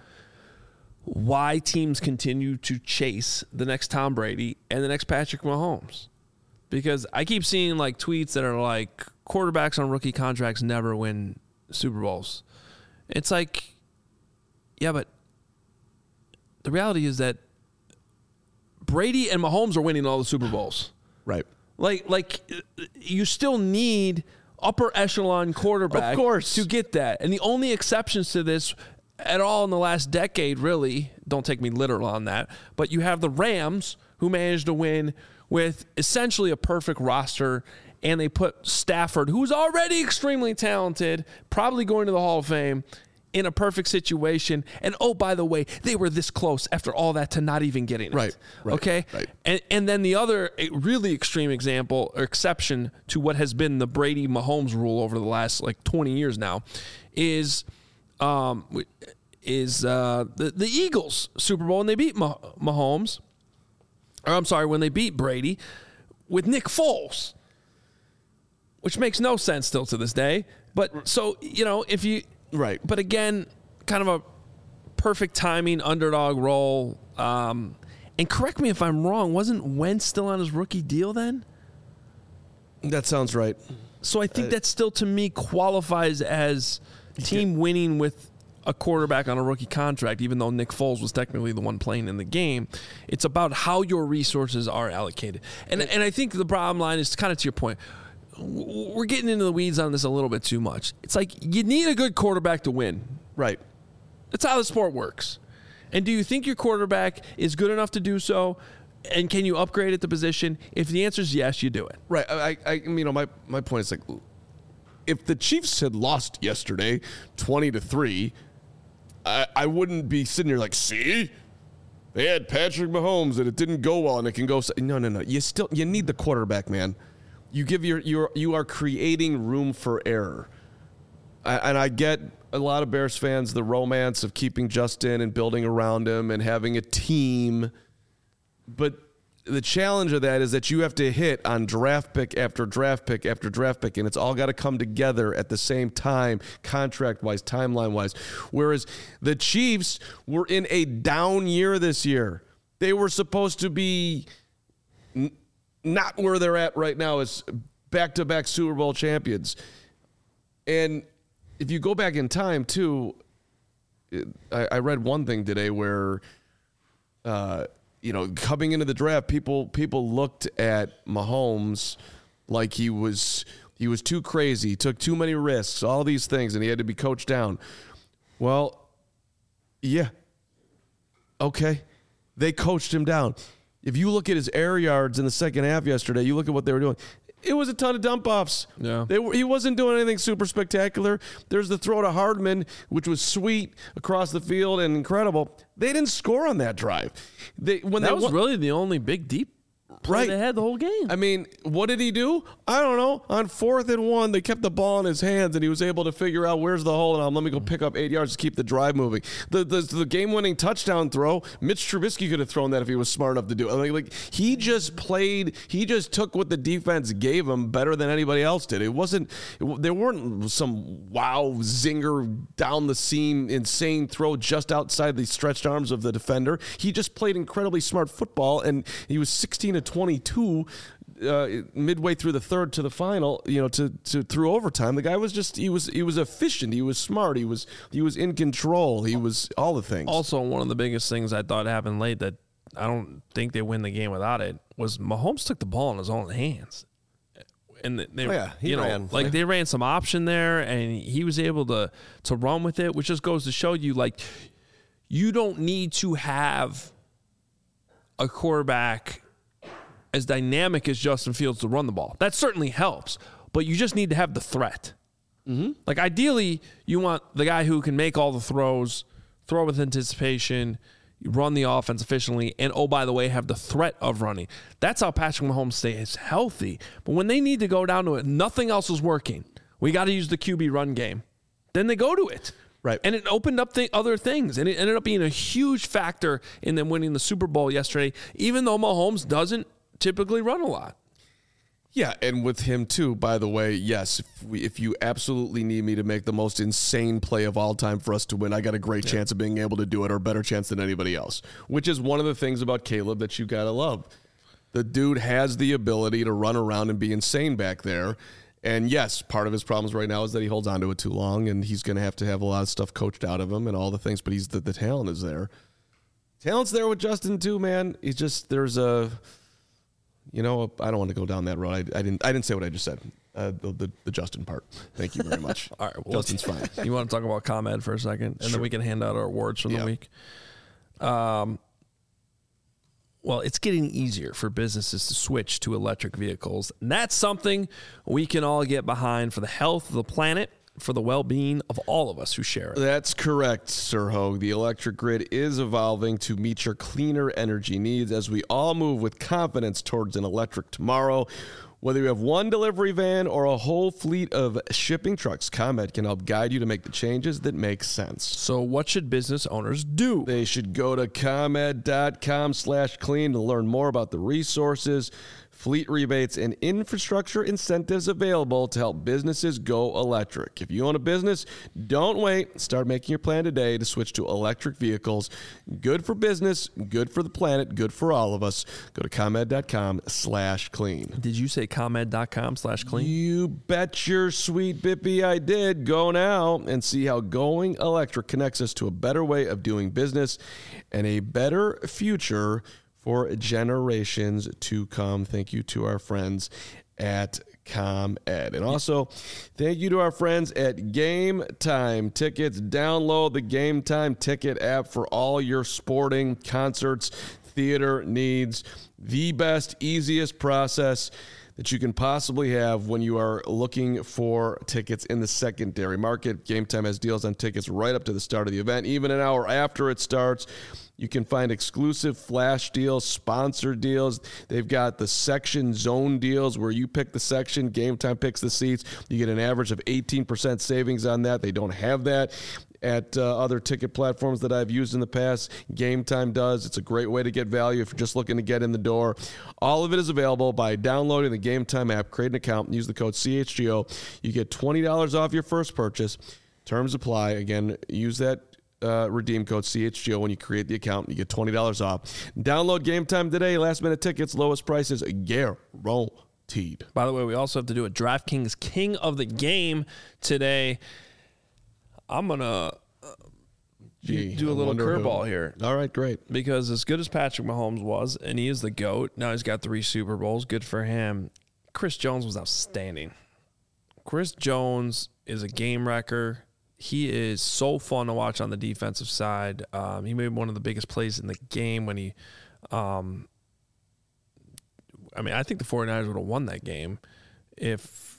why teams continue to chase the next Tom Brady and the next Patrick Mahomes. because I keep seeing like tweets that are like quarterbacks on rookie contracts never win Super Bowls. It's like, yeah, but the reality is that Brady and Mahomes are winning all the Super Bowls. Right. Like you still need upper echelon quarterback Of course. to get that. And the only exceptions to this at all in the last decade, really, don't take me literal on that, but you have the Rams who managed to win with essentially a perfect roster, and they put Stafford, who's already extremely talented, probably going to the Hall of Fame, in a perfect situation. And oh, by the way, they were this close after all that to not even getting it. Right. Okay? Right. And then the other really extreme example or exception to what has been the Brady Mahomes rule over the last like 20 years now is the Eagles Super Bowl, and they beat Mahomes. Or I'm sorry, when they beat Brady with Nick Foles, which makes no sense still to this day. But so, if you Right. But again, kind of a perfect timing underdog role. And correct me if I'm wrong, wasn't Wentz still on his rookie deal then? That sounds right. So I think that still, to me, qualifies as team winning with a quarterback on a rookie contract, even though Nick Foles was technically the one playing in the game. It's about how your resources are allocated. And I think the bottom line is kind of to your point. We're getting into the weeds on this a little bit too much. It's like you need a good quarterback to win. Right. That's how the sport works. And do you think your quarterback is good enough to do so? And can you upgrade at the position? If the answer is yes, you do it. Right. My point is like, if the Chiefs had lost yesterday 20-3, I wouldn't be sitting here like, see, they had Patrick Mahomes and it didn't go well and it can go. No. You need the quarterback, man. You are creating room for error. And I get a lot of Bears fans, the romance of keeping Justin and building around him and having a team. But the challenge of that is that you have to hit on draft pick after draft pick after draft pick, and it's all got to come together at the same time, contract-wise, timeline-wise. Whereas the Chiefs were in a down year this year. They were supposed to be not where they're at right now as back-to-back Super Bowl champions. And if you go back in time, too, I read one thing today where, coming into the draft, people looked at Mahomes like he was too crazy, took too many risks, all these things, and he had to be coached down. Well, yeah. Okay. They coached him down. If you look at his air yards in the second half yesterday, you look at what they were doing. It was a ton of dump offs. Yeah. He wasn't doing anything super spectacular. There's the throw to Hardman, which was sweet across the field and incredible. They didn't score on that drive. That was really the only big deep play they had the whole game. I mean, what did he do? I don't know. On 4th and 1, they kept the ball in his hands, and he was able to figure out where's the hole, and let me go pick up 8 yards to keep the drive moving. The game-winning touchdown throw, Mitch Trubisky could have thrown that if he was smart enough to do it. He just took what the defense gave him better than anybody else did. There weren't some wow zinger down the seam, insane throw just outside the stretched arms of the defender. He just played incredibly smart football, and he was 16-22 midway through the third to the final, to through overtime. The guy was he was efficient. He was smart. He was in control. He was all the things. Also, one of the biggest things I thought happened late that I don't think they win the game without it was Mahomes took the ball in his own hands. And they ran. They ran some option there, and he was able to run with it, which just goes to show you, like, you don't need to have a quarterback as dynamic as Justin Fields to run the ball. That certainly helps, but you just need to have the threat. Mm-hmm. Like, ideally, you want the guy who can make all the throws, throw with anticipation, run the offense efficiently, and, oh, by the way, have the threat of running. That's how Patrick Mahomes stays healthy. But when they need to go down to it, nothing else is working. We got to use the QB run game. Then they go to it. Right. And it opened up other things, and it ended up being a huge factor in them winning the Super Bowl yesterday, even though Mahomes doesn't typically run a lot. Yeah, and with him too, by the way, yes, if you absolutely need me to make the most insane play of all time for us to win, I got a great chance of being able to do it, or a better chance than anybody else, which is one of the things about Caleb that you got to love. The dude has the ability to run around and be insane back there. And yes, part of his problems right now is that he holds onto it too long, and he's going to have a lot of stuff coached out of him and all the things, but the talent is there. Talent's there with Justin too, man. He's just, there's I don't want to go down that road. I didn't say what I just said. The Justin part. Thank you very much. All right, well, Justin's fine. You want to talk about ComEd for a second, and then we can hand out our awards from the week. Well, it's getting easier for businesses to switch to electric vehicles. And that's something we can all get behind for the health of the planet, for the well-being of all of us who share it. That's correct, Sir Hogue. The electric grid is evolving to meet your cleaner energy needs as we all move with confidence towards an electric tomorrow. Whether you have one delivery van or a whole fleet of shipping trucks, ComEd can help guide you to make the changes that make sense. So what should business owners do? They should go to ComEd.com/clean to learn more about the resources, fleet rebates, and infrastructure incentives available to help businesses go electric. If you own a business, don't wait. Start making your plan today to switch to electric vehicles. Good for business, good for the planet, good for all of us. Go to ComEd.com/clean. Did you say ComEd.com/clean? You bet your sweet bippy I did. Go now and see how going electric connects us to a better way of doing business and a better future for generations to come. Thank you to our friends at ComEd. And also, thank you to our friends at Game Time Tickets. Download the Game Time Ticket app for all your sporting, concerts, theater needs. The best, easiest process that you can possibly have when you are looking for tickets in the secondary market. Game Time has deals on tickets right up to the start of the event, even an hour after it starts. You can find exclusive flash deals, sponsored deals. They've got the section zone deals where you pick the section, Game Time picks the seats. You get an average of 18% savings on that. They don't have that at other ticket platforms that I've used in the past. Game Time does. It's a great way to get value if you're just looking to get in the door. All of it is available by downloading the Game Time app, create an account, and use the code CHGO. You get $20 off your first purchase. Terms apply. Again, use that redeem code CHGO when you create the account. You get $20 off. Download Game Time today. Last minute tickets, lowest prices guaranteed. By the way, we also have to do a DraftKings King of the Game today. I'm going to do a little curveball here. All right, great. Because as good as Patrick Mahomes was, and he is the GOAT, now he's got 3 Super Bowls. Good for him. Chris Jones was outstanding. Chris Jones is a game wrecker. He is so fun to watch on the defensive side. He made one of the biggest plays in the game when he I think the 49ers would have won that game if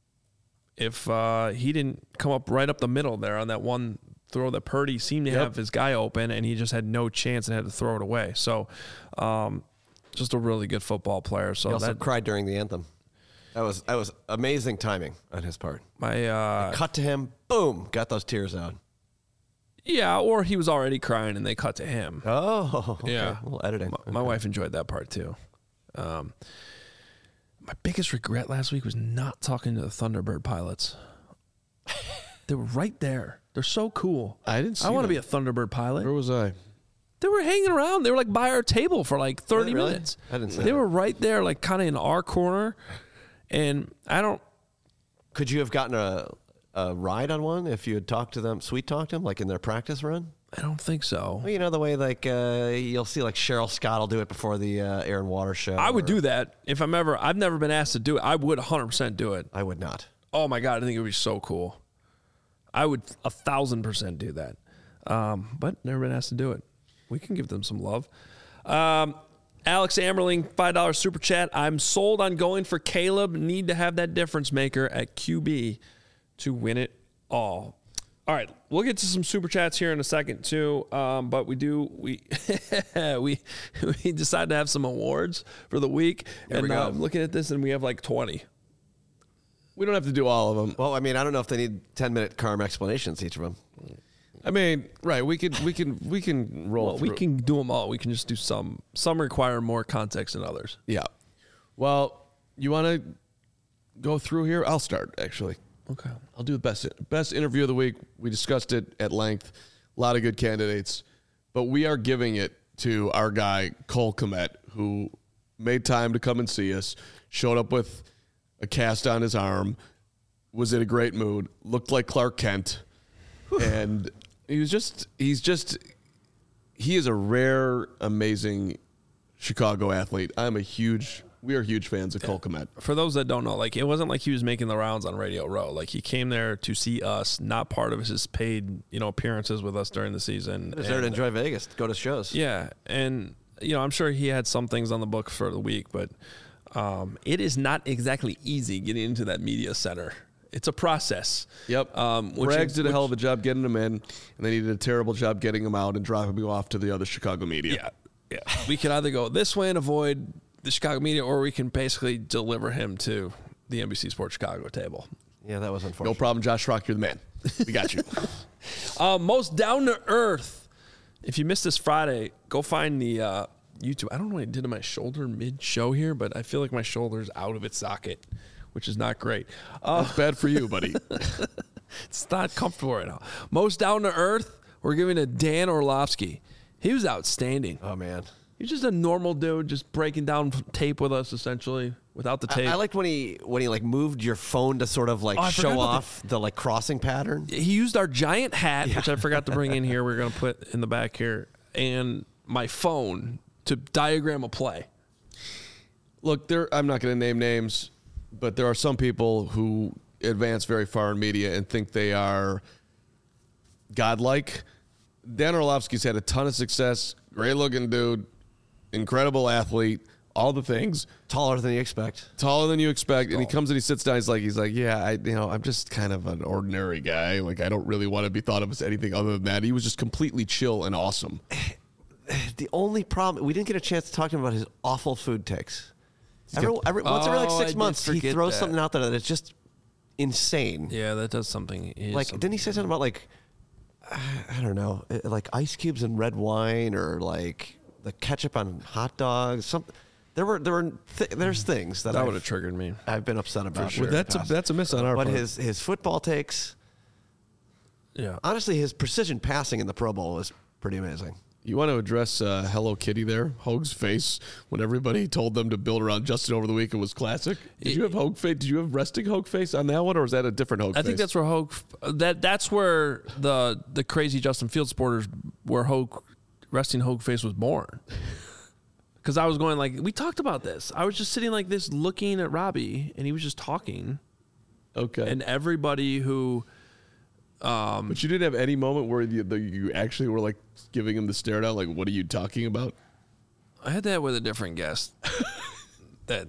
he didn't come up right up the middle there on that one throw that Purdy seemed to have his guy open, and he just had no chance and had to throw it away. So just a really good football player. So he also cried during the anthem. That was amazing timing on his part. Cut to him, boom, got those tears out. Yeah, or he was already crying and they cut to him. Oh, okay. Yeah. A little editing. My wife enjoyed that part too. My biggest regret last week was not talking to the Thunderbird pilots. They were right there. They're so cool. I didn't see I want to them. be a Thunderbird pilot. Where was I? They were hanging around. They were like by our table for like 30 Really? minutes. I didn't see They that. were right there, like kind of in our corner. And Could you have gotten a ride on one if you had talked to them, sweet talked them, like in their practice run? I don't think so. Well, you know the way like you'll see like Cheryl Scott will do it before the Air and Water show. I would do that if I've never been asked to do it. I would 100% do it. I would not. Oh my God, I think it would be so cool. I would 1,000% do that. But never been asked to do it. We can give them some love. Alex Ammerling, $5 super chat. I'm sold on going for Caleb. Need to have that difference maker at QB to win it all. All right, we'll get to some super chats here in a second too. But we decided to have some awards for the week, and I'm looking at this, and we have like 20. We don't have to do all of them. Well, I mean, I don't know if they need 10-minute Carm explanations, each of them. I mean, right? We can roll. Well, we can do them all. We can just do some. Some require more context than others. Yeah. Well, you want to go through here? I'll start actually. Okay. I'll do the best interview of the week. We discussed it at length. A lot of good candidates, but we are giving it to our guy Cole Kmet, who made time to come and see us, showed up with a cast on his arm, was in a great mood, looked like Clark Kent, and he is a rare, amazing Chicago athlete. We are huge fans of Cole Kmet. For those that don't know, like, it wasn't like he was making the rounds on Radio Row. Like, he came there to see us, not part of his paid, appearances with us during the season. He was there to enjoy Vegas, go to shows. Yeah, and I'm sure he had some things on the book for the week, but it is not exactly easy getting into that media center. It's a process. Yep. Rags did a hell of a job getting him in, and they did a terrible job getting him out and dropping him off to the other Chicago media. Yeah. We can either go this way and avoid the Chicago media, or we can basically deliver him to the NBC Sports Chicago table. Yeah, that was unfortunate. No problem, Josh Rock. You're the man. We got you. Most down to earth. If you missed this Friday, go find the YouTube. I don't know what I did to my shoulder mid-show here, but I feel like my shoulder's out of its socket, which is not great. That's bad for you, buddy. It's not comfortable right now. Most down to earth, we're giving to Dan Orlovsky. He was outstanding. Oh, man. He's just a normal dude, just breaking down tape with us, essentially, without the tape. I liked when he moved your phone to sort of show off the crossing pattern. He used our giant hat, which I forgot to bring in here. We're going to put in the back here, and my phone to diagram a play. Look, I'm not going to name names, but there are some people who advance very far in media and think they are godlike. Dan Orlovsky's had a ton of success. Great looking dude. Incredible athlete, all the things. Taller than you expect. And he comes and he sits down. He's like, yeah, I'm just kind of an ordinary guy. Like, I don't really want to be thought of as anything other than that. He was just completely chill and awesome. The only problem, we didn't get a chance to talk to him about his awful food takes. Once every 6 months, he throws something out there that is just insane. Yeah, that does something. Didn't he say something about I don't know, like ice cubes and red wine, or like the ketchup on hot dogs? There's things that would have triggered me. I've been upset about. Sure. That's a miss on our part. But his football takes, honestly, his precision passing in the Pro Bowl is pretty amazing. You want to address Hello Kitty there, Hogue's face, when everybody told them to build around Justin over the week? It was classic. Did you have Hogue face? Did you have resting Hogue face on that one, or was that a different Hogue face? I think that's where Hogue. That's where the crazy Justin Fields supporters, where resting Hogue face was born. Because I was going we talked about this. I was just sitting like this, looking at Robbie, and he was just talking. Okay. And everybody who. But you didn't have any moment where you actually were giving him the stare down, like, what are you talking about? I had that with a different guest that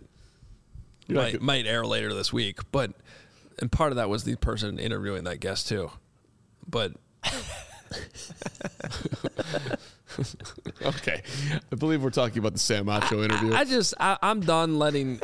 might air later this week, and part of that was the person interviewing that guest too. But okay, I believe we're talking about the Sam Acho interview. I'm done letting.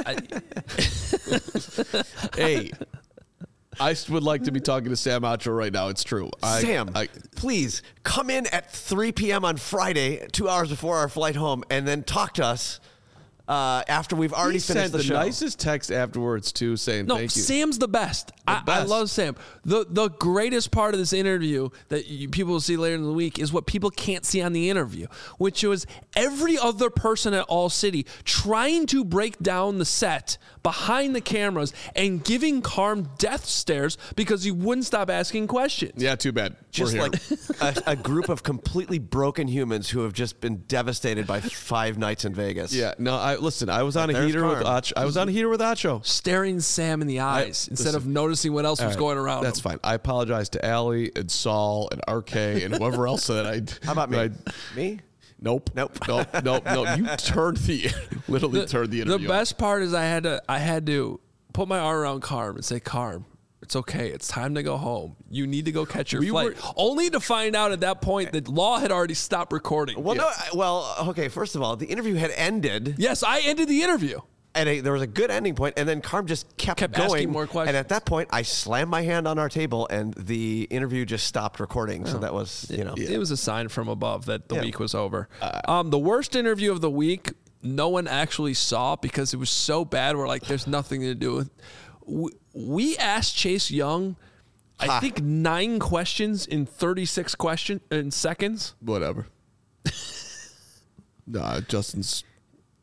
Hey. I would like to be talking to Sam Acho right now. It's true. Sam, please come in at 3 p.m. on Friday, 2 hours before our flight home, and then talk to us after we've already finished the show. The nicest text afterwards, too, saying thank you. Sam's the best. I love Sam. The greatest part of this interview that people will see later in the week is what people can't see on the interview, which was every other person at All City trying to break down the set behind the cameras and giving Carm death stares because he wouldn't stop asking questions. Yeah, too bad. Just like a group of completely broken humans who have just been devastated by 5 nights in Vegas. Yeah, no, I was on a heater with Acho. I was on a heater with Acho. Staring Sam in the eyes instead of noticing what else was going around. That's fine. I apologize to Allie and Saul and RK and whoever else that I. How about me? Me? Nope. You turned literally turned the interview. The best part is I had to put my arm around Carm and say, Carm, it's okay. It's time to go home. You need to go catch your flight. Only to find out at that point that Law had already stopped recording. Well, okay, first of all, the interview had ended. Yes, I ended the interview. And there was a good ending point, and then Carm just kept going. Asking more questions. And at that point, I slammed my hand on our table, and the interview just stopped recording. So that was, It was a sign from above that the week was over. The worst interview of the week, no one actually saw because it was so bad. We're like, there's nothing to do with. We asked Chase Young, I think 9 questions in 36 seconds. Whatever. No, Justin's.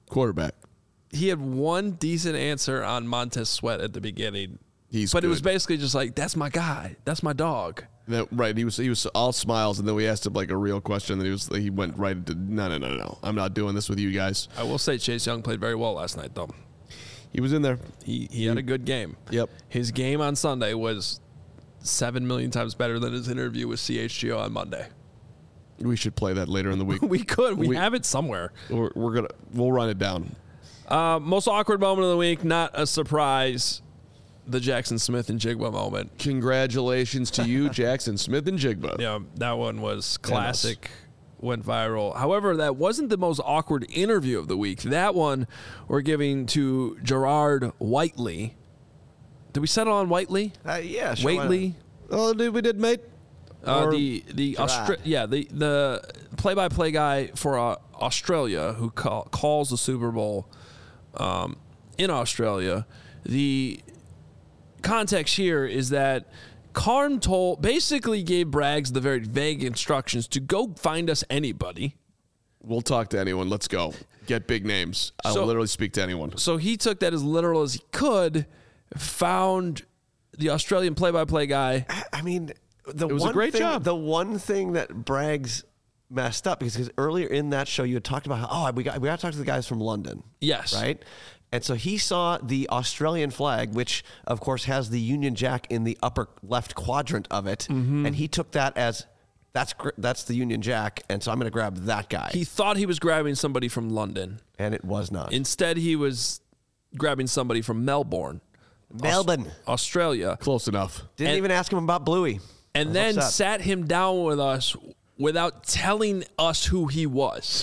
Quarterback. He had one decent answer on Montez Sweat at the beginning. He's But it was good. basically just like, that's my guy. That's my dog. Right. He was all smiles, and then we asked him like a real question, and he went right into no. I'm not doing this with you guys. I will say Chase Young played very well last night, though. He was in there. He had a good game. Yep. His game on Sunday was 7 million times better than his interview with CHGO on Monday. We should play that later in the week. We could. We have it somewhere. We'll run it down. Most awkward moment of the week, not a surprise. The Jackson Smith and Jigba moment. Congratulations to you, Jackson Smith and Jigba. Yeah, that one was classic. Went viral. However, that wasn't the most awkward interview of the week. That one we're giving to Gerard Whiteley. Did we settle on Whiteley? Yeah, sure. Whiteley? Oh, dude, we did, mate. The Gerard. the play-by-play guy for Australia who calls the Super Bowl in Australia. The context here is that Carm basically gave Braggs the very vague instructions to go find us anybody. We'll talk to anyone. Let's go. Get big names. I'll literally speak to anyone. So he took that as literal as he could, found the Australian play-by-play guy. I mean, it was a great job. The one thing that Braggs messed up because earlier in that show you had talked about how we got to talk to the guys from London. Yes. Right? And so he saw the Australian flag, which of course has the Union Jack in the upper left quadrant of it, and he took that as that's the Union Jack, and so I'm going to grab that guy. He thought he was grabbing somebody from London. And it was not. Instead, he was grabbing somebody from Melbourne, Australia. Close enough. Didn't even ask him about Bluey. And then sat him down with us without telling us who he was.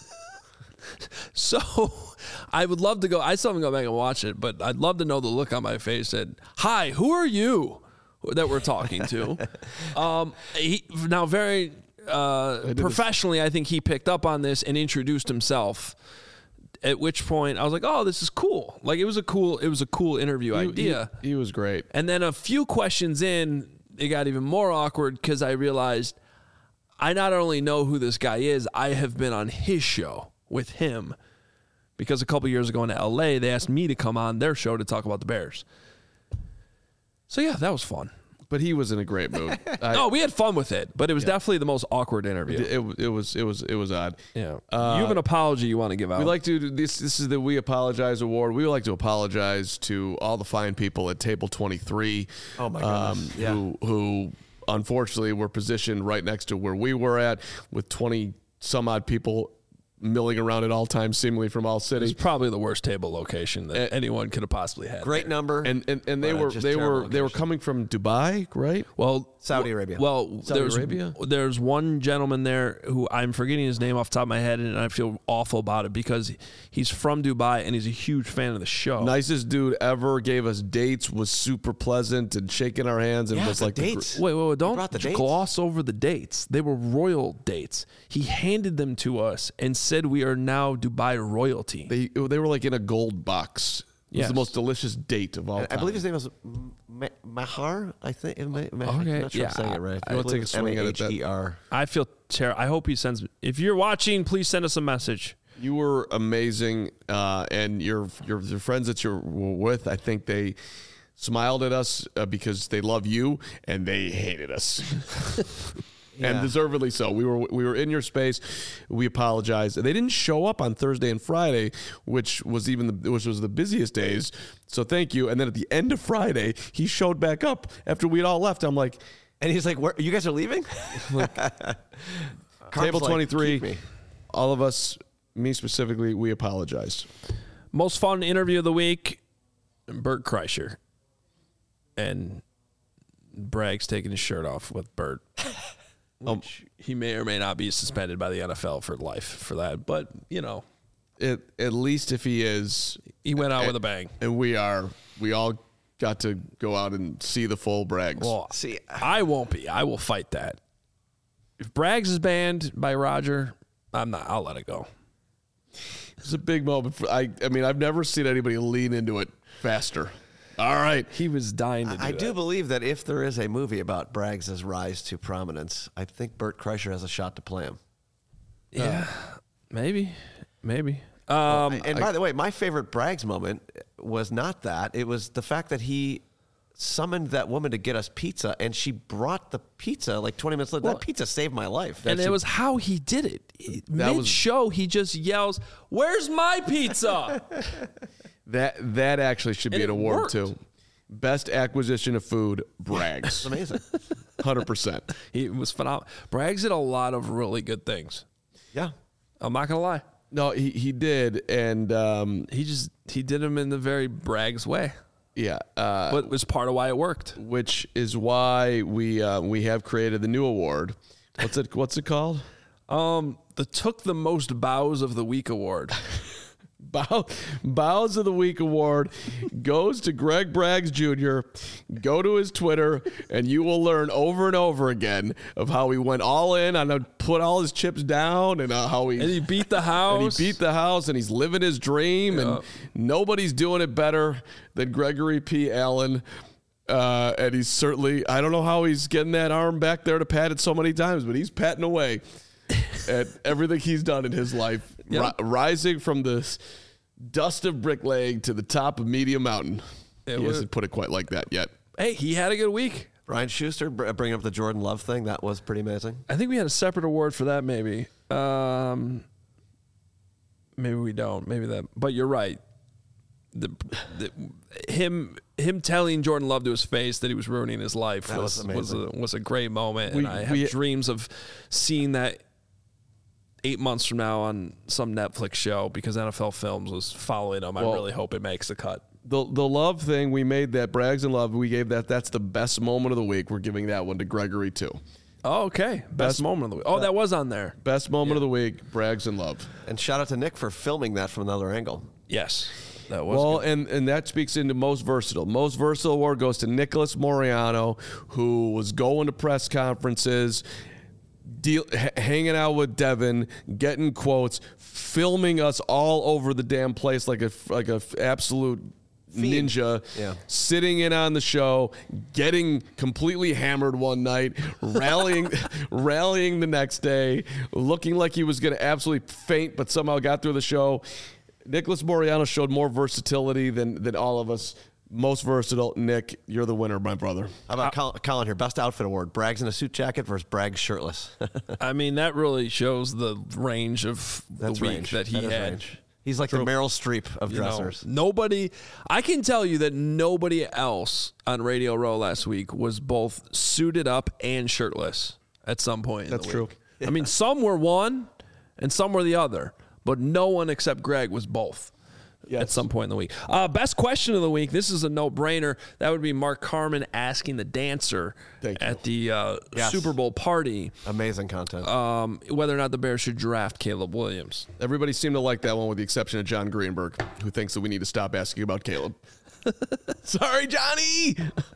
So I would love to go. I still haven't gone back and watch it, but I'd love to know the look on my face that, hi, who are you that we're talking to? Now, very professionally, I think he picked up on this and introduced himself. At which point I was like, oh, this is cool. Like it was a cool interview idea. He was great. And then a few questions in, it got even more awkward because I realized I not only know who this guy is, I have been on his show with him because a couple years ago in LA, they asked me to come on their show to talk about the Bears. So yeah, that was fun. But he was in a great mood. We had fun with it, but it was definitely the most awkward interview. It was odd. Yeah. You have an apology you want to give out. We like to this is the We Apologize Award. We would like to apologize to all the fine people at Table 23. Oh my goodness. Who unfortunately were positioned right next to where we were at with 20 some odd people milling around at all times, seemingly from all cities. It's probably the worst table location that anyone could have possibly had. Great number. And they were coming from Dubai, right? Well, Saudi Arabia. Well, there's one gentleman there who I'm forgetting his name off the top of my head, and I feel awful about it because he's from Dubai and he's a huge fan of the show. Nicest dude ever. Gave us dates. Was super pleasant and shaking our hands and was like dates. Wait, don't brought the dates? gloss over the dates. They were royal dates. He handed them to us and said we are now Dubai royalty. They were like in a gold box. It was the most delicious date of all time. I believe his name was Mahar, I think. I'm not sure I'm saying it right. I want to take a swing at it. Mahar. I feel terrible. I hope he sends. If you're watching, please send us a message. You were amazing, and your friends that you were with, I think they smiled at us because they love you, and they hated us. And deservedly so. We were in your space. We apologize. They didn't show up on Thursday and Friday, which was the busiest days. So thank you. And then at the end of Friday, he showed back up after we'd all left. I'm like, and he's like, "Where you guys are leaving?" Table 23. All of us, me specifically, we apologized. Most fun interview of the week, Bert Kreischer. And Braggs taking his shirt off with Bert. He may or may not be suspended by the NFL for life for that, but At least if he is, he went out with a bang. And we all got to go out and see the full Braggs. Well, I won't be. I will fight that. If Braggs is banned by Roger, I'm not. I'll let it go. It's a big moment. I mean, I've never seen anybody lean into it faster. All right. He was dying to do I do believe that if there is a movie about Braggs' rise to prominence, I think Bert Kreischer has a shot to play him. Yeah, maybe. And by the way, my favorite Braggs moment was not that. It was the fact that he summoned that woman to get us pizza, and she brought the pizza like 20 minutes later. That pizza saved my life. And it was how he did it. Mid-show, he just yells, "Where's my pizza?" That actually should be And an it award worked. too. Best acquisition of food, Braggs. It's amazing. 100%. He was phenomenal. Braggs did a lot of really good things. Yeah. I'm not going to lie. No, he did, and He did them in the very Braggs way. yeah, But it was part of why it worked. which is why we have created the new award. What's it called? The Took the Most Bows of the Week award. Bows of the Week award goes to Greg Braggs Jr. Go to his Twitter, and you will learn over and over again of how he went all in on put all his chips down, and how And he beat the house. and he's living his dream, and nobody's doing it better than Gregory P. Allen. And he's certainly, I don't know how he's getting that arm back there to pat it so many times, but he's patting away at everything he's done in his life, rising from the dust of bricklaying to the top of Medium Mountain. He hasn't put it quite like that yet. Hey, he had a good week. Brian Schuster bringing up the Jordan Love thing. That was pretty amazing. I think we had a separate award for that, maybe. Maybe we don't. Maybe that. But you're right. Him telling Jordan Love to his face that he was ruining his life That was amazing. was a great moment. And I have dreams of seeing that 8 months from now on some Netflix show, because NFL Films was following him. I really hope it makes the cut. The Love thing, we made that Braggs and Love. We gave that's the best moment of the week. We're giving that one to Gregory too. Oh, okay. Best moment of the week. Oh, that was on there. Best moment of the week, Braggs and Love. And shout out to Nick for filming that from another angle. Yes. That was Well, good. and that speaks into most versatile. Most versatile award goes to Nicholas Moriano, who was going to press conferences, hanging out with Devin, getting quotes, filming us all over the damn place like a absolute ninja, sitting in on the show, getting completely hammered one night, rallying the next day, looking like he was going to absolutely faint, but somehow got through the show. Nicholas Moriano showed more versatility than all of us. Most versatile. Nick, you're the winner, my brother. How about Colin here? Best outfit award. Braggs in a suit jacket versus Braggs shirtless. I mean, that really shows the range of the week that he had. Range. He's like the Meryl Streep of dressers. I can tell you that nobody else on Radio Row last week was both suited up and shirtless at some point. That's true. I mean, some were one and some were the other, but no one except Greg was both. At some point in the week. Best question of the week. This is a no-brainer. That would be Mark Carman asking the dancer at the Super Bowl party. Amazing content. Whether or not the Bears should draft Caleb Williams. Everybody seemed to like that one with the exception of John Greenberg, who thinks that we need to stop asking about Caleb. Sorry, Johnny!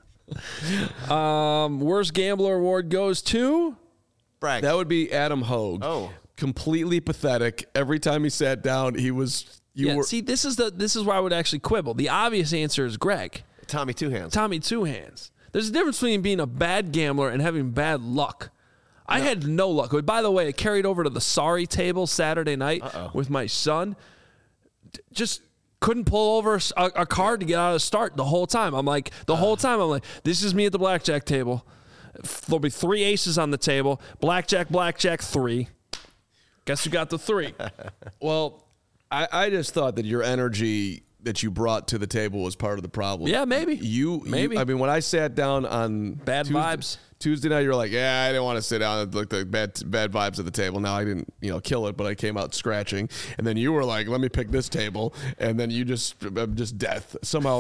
Worst Gambler Award goes to? Braggs. That would be Adam Hogue. Oh. Completely pathetic. Every time he sat down, he was... See, this is where I would actually quibble. The obvious answer is Greg. Tommy Two Hands. Tommy Two Hands. There's a difference between being a bad gambler and having bad luck. I had no luck. By the way, I carried over to the sorry table Saturday night with my son. Just couldn't pull over a card to get out of the start the whole time. I'm like, this is me at the blackjack table. There'll be 3 aces on the table. Blackjack, 3. Guess who got the 3? Well... I just thought that your energy that you brought to the table was part of the problem. Yeah, maybe. I mean, when I sat down on vibes Tuesday night, you were like, "Yeah, I didn't want to sit down and look at bad vibes at the table." Now I didn't, kill it, but I came out scratching. And then you were like, "Let me pick this table," and then you just death somehow,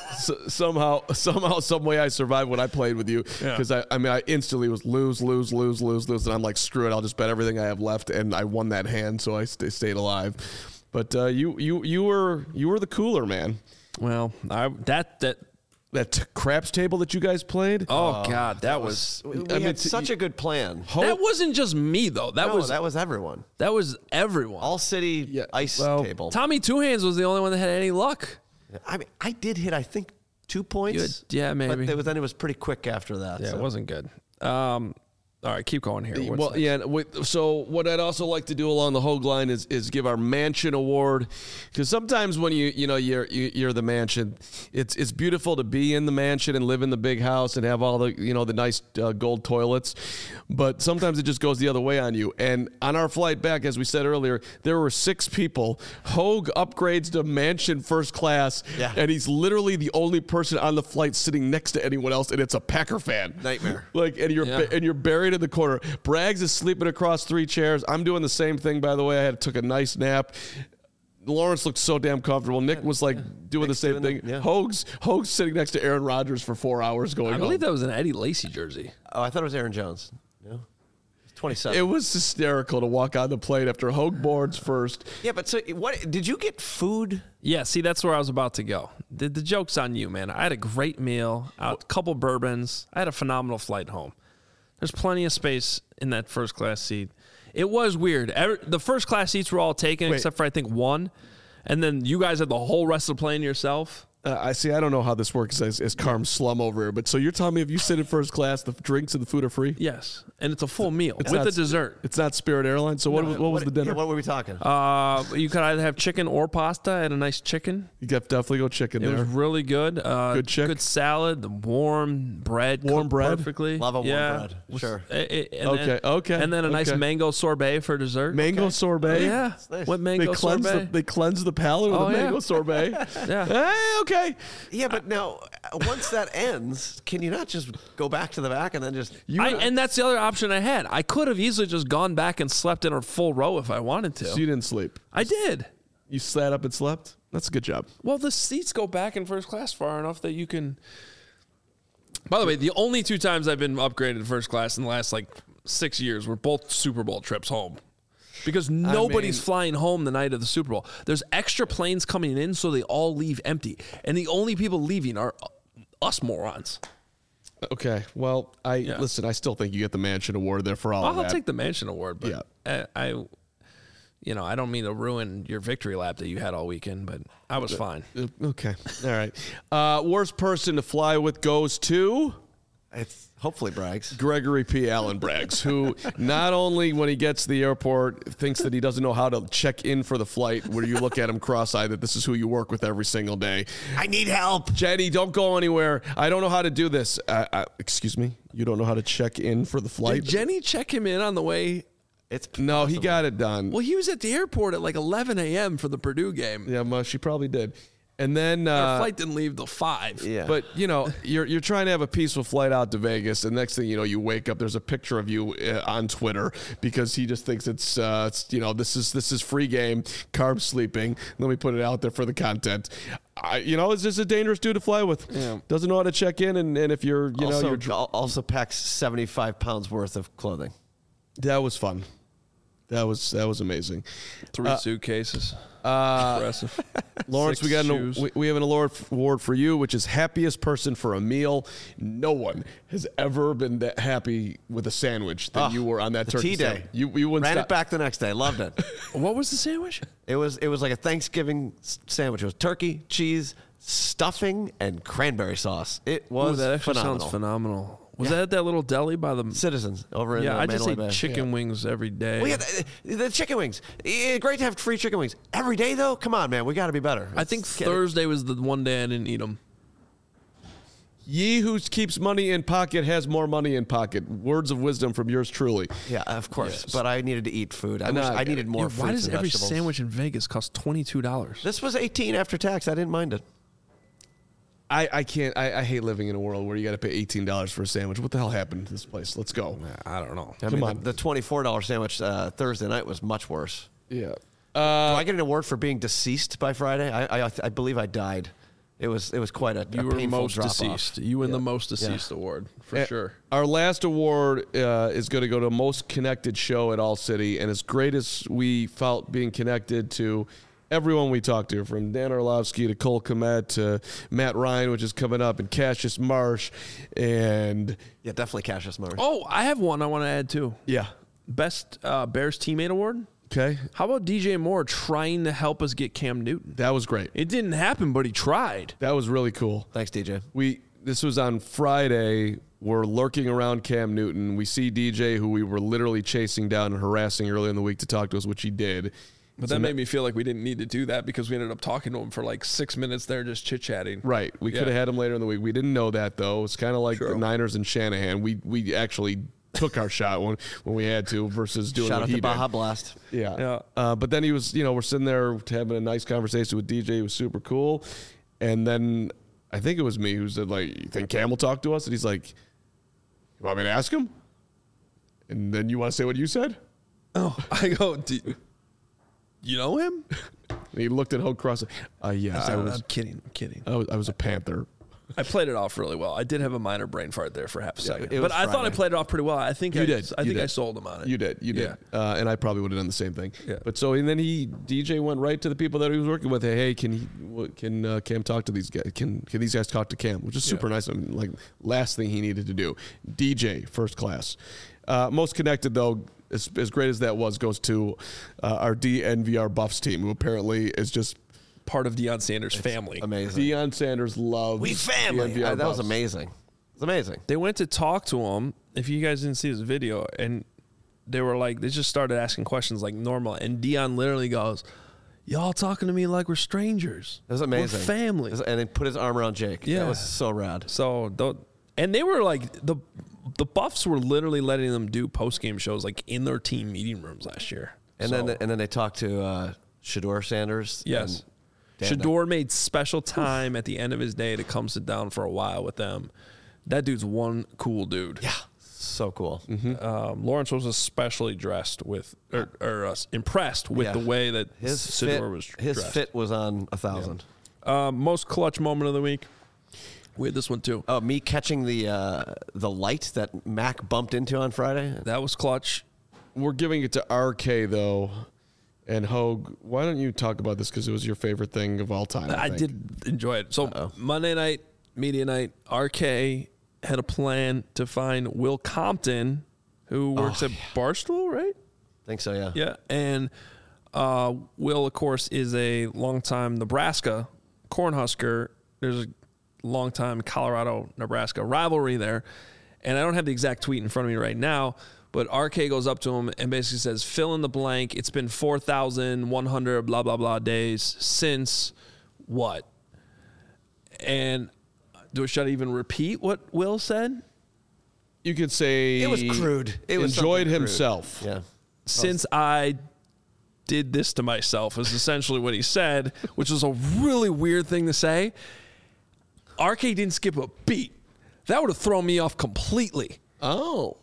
some way I survived when I played with you because I instantly was lose, and I'm like, screw it, I'll just bet everything I have left, and I won that hand, so I stayed alive. But you were the cooler man. Well, That craps table that you guys played. Oh God, that was. We had such a good plan. That wasn't just me though. That was everyone. That was everyone. All city ice table. Tommy Two Hands was the only one that had any luck. I mean, I did hit, I think, 2 points. Maybe. But then it was pretty quick after that. Yeah, so. It wasn't good. All right, keep going here. What's Well, next? yeah. So what I'd also like to do along the Hogue line is give our mansion award, because sometimes when you're the mansion, it's beautiful to be in the mansion and live in the big house and have all the the nice gold toilets, but sometimes it just goes the other way on you. And on our flight back, as we said earlier, there were 6 people. Hogue upgrades to mansion first class, and he's literally the only person on the flight sitting next to anyone else, and it's a Packer fan. Nightmare. And you're buried in the corner. Braggs is sleeping across 3 chairs. I'm doing the same thing, by the way. Took a nice nap. Lawrence looked so damn comfortable. Nick was doing the same thing. Hogue's sitting next to Aaron Rodgers for 4 hours going I believe that was an Eddie Lacy jersey. Oh, I thought it was Aaron Jones. No, 27. It was hysterical to walk on the plane after Hogue boards first. Yeah, but so what? Did you get food? Yeah, see, that's where I was about to go. The joke's on you, man. I had a great meal, a couple bourbons. I had a phenomenal flight home. There's plenty of space in that first class seat. It was weird. The first class seats were all taken except for, I think, 1. And then you guys had the whole rest of the plane yourself. I don't know how this works as Carm slum over here, but so you're telling me if you sit in first class, the drinks and the food are free? Yes, and it's a full meal with not the dessert. It's not Spirit Airlines. So what was the dinner? Yeah, what were we talking? You could either have chicken or pasta. I had a nice chicken. You got definitely go chicken It there. was really good. Good chick. Good salad. The warm bread. Warm cooked bread? perfectly. Love a warm bread. Was- Sure. Okay. And then a nice mango sorbet for dessert. Mango sorbet. Yeah. nice. What mango sorbet? They cleanse the palate with Oh, a yeah. mango sorbet. Yeah. Hey, okay. Yeah, but now once that ends, can you not just go back to the back and then just? And that's the other option I had. I could have easily just gone back and slept in a full row if I wanted to. So you didn't sleep. I did. You sat up and slept. That's a good job. Well, the seats go back in first class far enough that you can. By the way, the only 2 times I've been upgraded to first class in the last 6 years were both Super Bowl trips home. Because nobody's flying home the night of the Super Bowl. There's extra planes coming in, so they all leave empty. And the only people leaving are us morons. Okay. Well, listen. I still think you get the mansion award there for all of that. I'll take the mansion award, but I don't mean to ruin your victory lap that you had all weekend, but I was fine. Okay. All right. Worst person to fly with goes to It's hopefully Braggs. Gregory P. Allen Braggs, who not only when he gets to the airport thinks that he doesn't know how to check in for the flight, where you look at him cross-eyed that this is who you work with every single day. I need help. Jenny, don't go anywhere. I don't know how to do this. Excuse me? You don't know how to check in for the flight? Did Jenny check him in on the way? No, he got it done. Well, he was at the airport at 11 a.m. for the Purdue game. Yeah, well, she probably did. And then Our flight didn't leave till 5. Yeah. But you're trying to have a peaceful flight out to Vegas, and next thing you know, you wake up. There's a picture of you on Twitter because he just thinks it's this is free game. Carb sleeping. Let me put it out there for the content. It's just a dangerous dude to fly with. Yeah. Doesn't know how to check in, and if you're also packs 75 pounds worth of clothing. That was fun. That was amazing. 3 suitcases. Impressive. Lawrence, 6 we got shoes. we have an award for you, which is happiest person for a meal. No one has ever been that happy with a sandwich than you were on that the turkey tea day. sandwich. You wouldn't Ran stop. it back the next day. Loved it. What was the sandwich? It was like a Thanksgiving sandwich. It was turkey, cheese, stuffing, and cranberry sauce. It was that actually phenomenal. sounds phenomenal. Was that at that little deli by the Citizens over in I just Mandalay eat Bay. chicken wings every day. Well, yeah, the chicken wings. Great to have free chicken wings every day, though. Come on, man, we got to be better. I think Thursday was the one day I didn't eat them. Ye who keeps money in pocket has more money in pocket. Words of wisdom from yours truly. Yeah, of course. Yes. But I needed to eat food. I needed more fruits Why does and every vegetables. sandwich in Vegas cost $22? This was $18 after tax. I didn't mind it. I can't. I hate living in a world where you got to pay $18 for a sandwich. What the hell happened to this place? Let's go. I don't know. I mean, the $24 sandwich Thursday night was much worse. Yeah. Do I get an award for being deceased by Friday? I believe I died. It was quite a You were painful most drop-off. deceased. You win the most deceased award for sure. Our last award is going to go to most connected show at All City, and as great as we felt being connected to everyone we talked to, from Dan Orlovsky to Cole Kmet to Matt Ryan, which is coming up, and Cassius Marsh, and Yeah, definitely Cassius Marsh. Oh, I have one I want to add too. yeah, Best Bears teammate award. okay, How about DJ Moore trying to help us get Cam Newton? that was great. It didn't happen, but he tried. That was really cool. Thanks, DJ. This was on Friday. we're lurking around Cam Newton. We see DJ, who we were literally chasing down and harassing earlier in the week to talk to us, which he did. But that made me feel like we didn't need to do that because we ended up talking to him for like 6 minutes there just chit-chatting. Right. We could have had him later in the week. We didn't know that, though. It's kind of like the Niners and Shanahan. We actually took our shot when we had to versus doing Shout what out he to did. Baja Blast. Yeah. But then he was, we're sitting there having a nice conversation with DJ. It was super cool. And then I think it was me who said, like, you think Cam will talk to us? And he's like, you want me to ask him? And then you want to say what you said? Oh, I go, you know him? And he looked at Hogue Cross. Yeah, I'm kidding. I was a Panther. I played it off really well. I did have a minor brain fart there for half a second. it But was I thought I Friday. played it off pretty well. I think You did. I think I sold him on it. You did. Yeah. And I probably would have done the same thing. Yeah. But so, and then DJ went right to the people that he was working with. Hey, can Cam talk to these guys? Can these guys talk to Cam? Which is super nice. I mean, like, last thing he needed to do. DJ, first class. Most connected, though, as great as that was, goes to our DNVR Buffs team, who apparently is just Part of Deion Sanders' family. Amazing. Deion Sanders loves We family. DNVR That was Buffs. amazing. It's amazing. They went to talk to him. If you guys didn't see this video, and they were like, they just started asking questions like normal. And Deion literally goes, y'all talking to me like we're strangers. It was amazing. We're family. And he put his arm around Jake. Yeah. That was so rad. So, and they were like, the Buffs were literally letting them do post-game shows like in their team meeting rooms last year. And then they talked to Shador Sanders. Yes. and Dan Shador made special time at the end of his day to come sit down for a while with them. That dude's one cool dude. Yeah. So cool. Lawrence was especially dressed with, or impressed with Yeah. the way that His Shador was dressed. His fit was on 1,000. Most clutch moment of the week. We had this one too. Oh, me catching the light that Mac bumped into on Friday. That was clutch. We're giving it to RK, though. And Hogue, why don't you talk about this because it was your favorite thing of all time? I think. did enjoy it. So Monday night, media night, RK had a plan to find Will Compton, who works at Barstool, right? Think so, yeah. Yeah. And Will, of course, is a longtime Nebraska Cornhusker. There's a longtime Colorado-Nebraska rivalry there. And I don't have the exact tweet in front of me right now, but RK goes up to him and basically says, fill in the blank. It's been 4,100 blah, blah, blah days since what? And should I even repeat what Will said? You could say It was crude. It was enjoyed something crude. himself. Yeah. Since I did this to myself is essentially what he said, which was a really weird thing to say. RK didn't skip a beat. That would have thrown me off completely. Oh.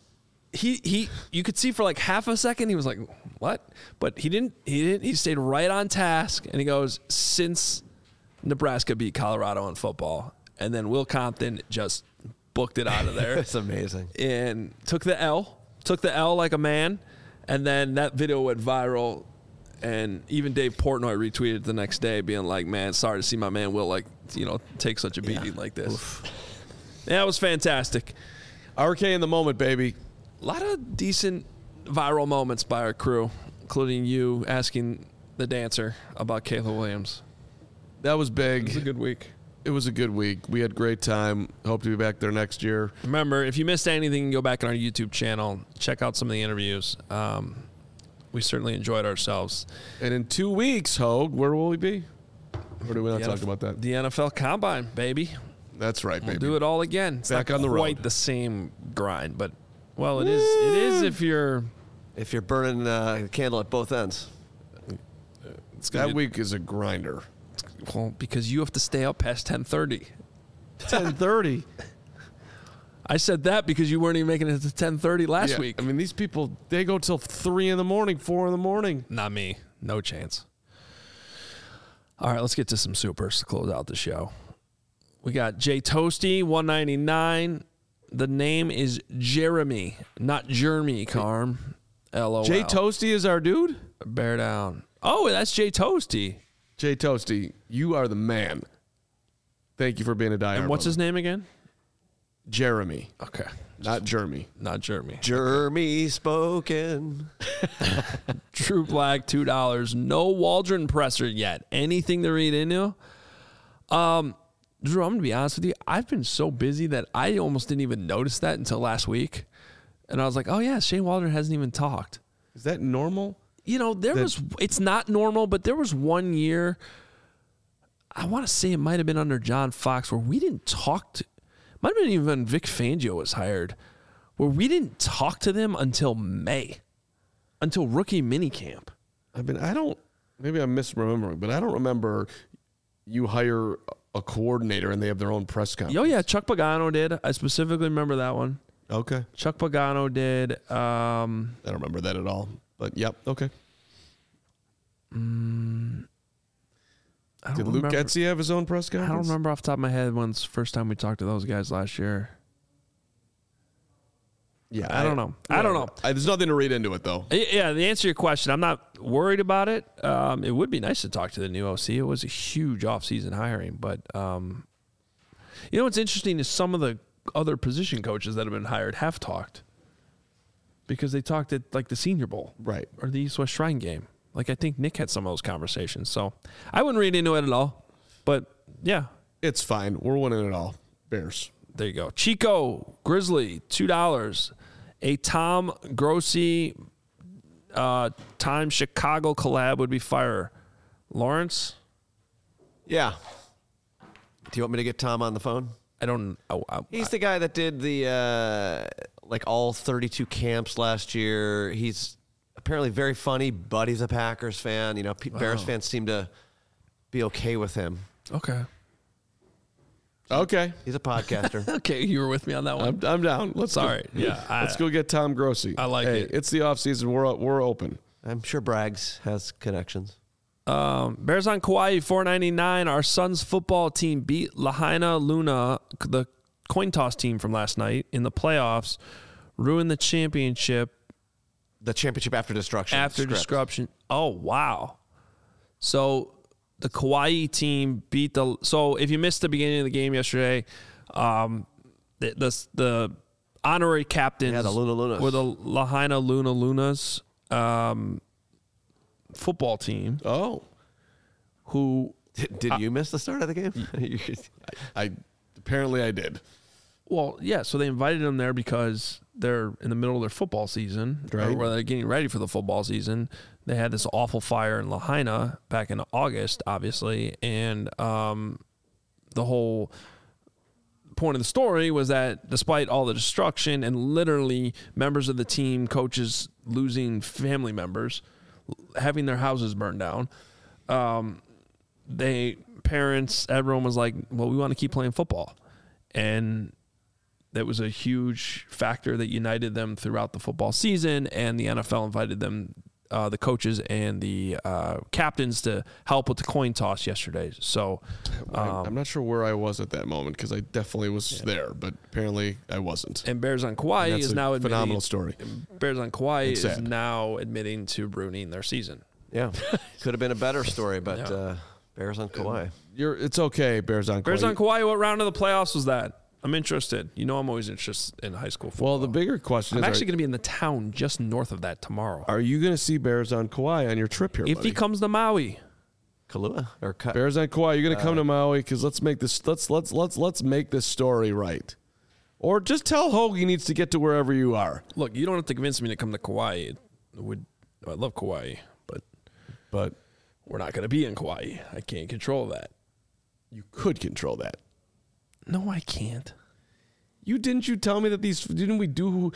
You could see for like half a second he was like, what? But he didn't he stayed right on task, and he goes, since Nebraska beat Colorado in football. And then Will Compton just booked it out of there. It's amazing. And took the L like a man. And then that video went viral. And even Dave Portnoy retweeted it the next day being like, man, sorry to see my man Will, take such a beating like this. Oof. Yeah, it was fantastic. RK in the moment, baby. A lot of decent viral moments by our crew, including you asking the dancer about Kayla Williams. That was big. It was a good week. It was a good week. We had a great time. Hope to be back there next year. Remember, if you missed anything, go back on our YouTube channel. Check out some of the interviews. We certainly enjoyed ourselves. And in 2 weeks, Hogue, where will we be? Or do we not talk about that? The NFL Combine, baby. That's right, baby. We'll do it all again. It's back not on the quite road. the same grind, but, well, it is if you're... If you're burning a candle at both ends. It's gonna That be, week is a grinder. well, because you have to stay up past 10:30. 10:30. I said that because you weren't even making it to 10:30 last Yeah, week. I mean, these people, they go till 3 in the morning, 4 in the morning. Not me. No chance. All right, let's get to some supers to close out the show. We got Jay Toasty, $1.99. The name is Jeremy, not Jeremy, Carm. LOL. Jay Toasty is our dude? Bear down. Oh, that's Jay Toasty. Jay Toasty, you are the man. Thank you for being a diehard. And what's his name again? Jeremy, Okay. not Jeremy. Not Jeremy. Jeremy spoken. True Black, $2. No Waldron presser yet. Anything to read into? Drew, I'm going to be honest with you. I've been so busy that I almost didn't even notice that until last week. And I was like, oh, yeah, Shane Waldron hasn't even talked. Is that normal? You know, it's not normal, but there was one year, I want to say it might have been under John Fox, where we didn't talk to, might have been even when Vic Fangio was hired, where we didn't talk to them until May, until rookie minicamp. Maybe I'm misremembering, but I don't remember you hire a coordinator and they have their own press conference. Oh, yeah, Chuck Pagano did. I specifically remember that one. Okay. Chuck Pagano did. I don't remember that at all. But, yep, okay. Did Luke Getzey have his own press conference? I don't remember off the top of my head when's the first time we talked to those guys last year. Yeah, I don't know. I don't know. There's nothing to read into it, though. Yeah, the answer to your question, I'm not worried about it. It would be nice to talk to the new OC. It was a huge offseason hiring. But, you know what's interesting is some of the other position coaches that have been hired have talked. Because they talked at, like, the Senior Bowl. Right. Or the East West Shrine game. Like, I think Nick had some of those conversations. So, I wouldn't read into it at all. But, yeah. It's fine. We're winning it all. Bears. There you go. Chico Grizzly, $2. A Tom Grossi Time Chicago collab would be fire. Lawrence? Yeah. Do you want me to get Tom on the phone? I don't. He's the guy that did the like all 32 camps last year. He's apparently very funny, but he's a Packers fan. You know, Bears fans seem to be okay with him. Okay. Okay. He's a podcaster. Okay, you were with me on that one. I'm down. Let's go get Tom Grossi. I like it. It's the offseason. We're open. I'm sure Braggs has connections. Bears on Kauai, $4.99. Our son's football team beat Lahaina Luna, the coin toss team from last night, in the playoffs. Ruined the championship. The championship after destruction. After destruction. Oh, wow. So the Kauai team beat the. So if you missed the beginning of the game yesterday, the honorary captains the Luna Lunas. were the Lahaina Luna Lunas football team. Oh. Who did you miss the start of the game? Apparently I did. Well, yeah. So they invited them there because they're in the middle of their football season, right? Or they're getting ready for the football season. They had this awful fire in Lahaina back in August, obviously, and the whole point of the story was that despite all the destruction and literally members of the team, coaches losing family members, having their houses burned down, parents, everyone was like, well, we want to keep playing football. And that was a huge factor that united them throughout the football season, and the NFL invited them, the coaches and the captains, to help with the coin toss yesterday. So I'm not sure where I was at that moment because I definitely was there, but apparently I wasn't. And Bears on Kauai is now admitting, phenomenal story. Bears on Kauai is now admitting to ruining their season. Yeah, could have been a better story, but Bears on Kauai. It's okay, Bears on Kauai. Bears on Kauai. What round of the playoffs was that? I'm interested. You know, I'm always interested in high school football. Well, the bigger question is, I'm actually going to be in the town just north of that tomorrow. Are you going to see Bears on Kauai on your trip here, if buddy? he comes to Maui? Kailua or Bears on Kauai. You're going to come to Maui because let's make this. Let's make this story right. Or just tell Hogue he needs to get to wherever you are. Look, you don't have to convince me to come to Kauai. I love Kauai, but we're not going to be in Kauai. I can't control that. You could control that. No, I can't. You tell me that didn't we do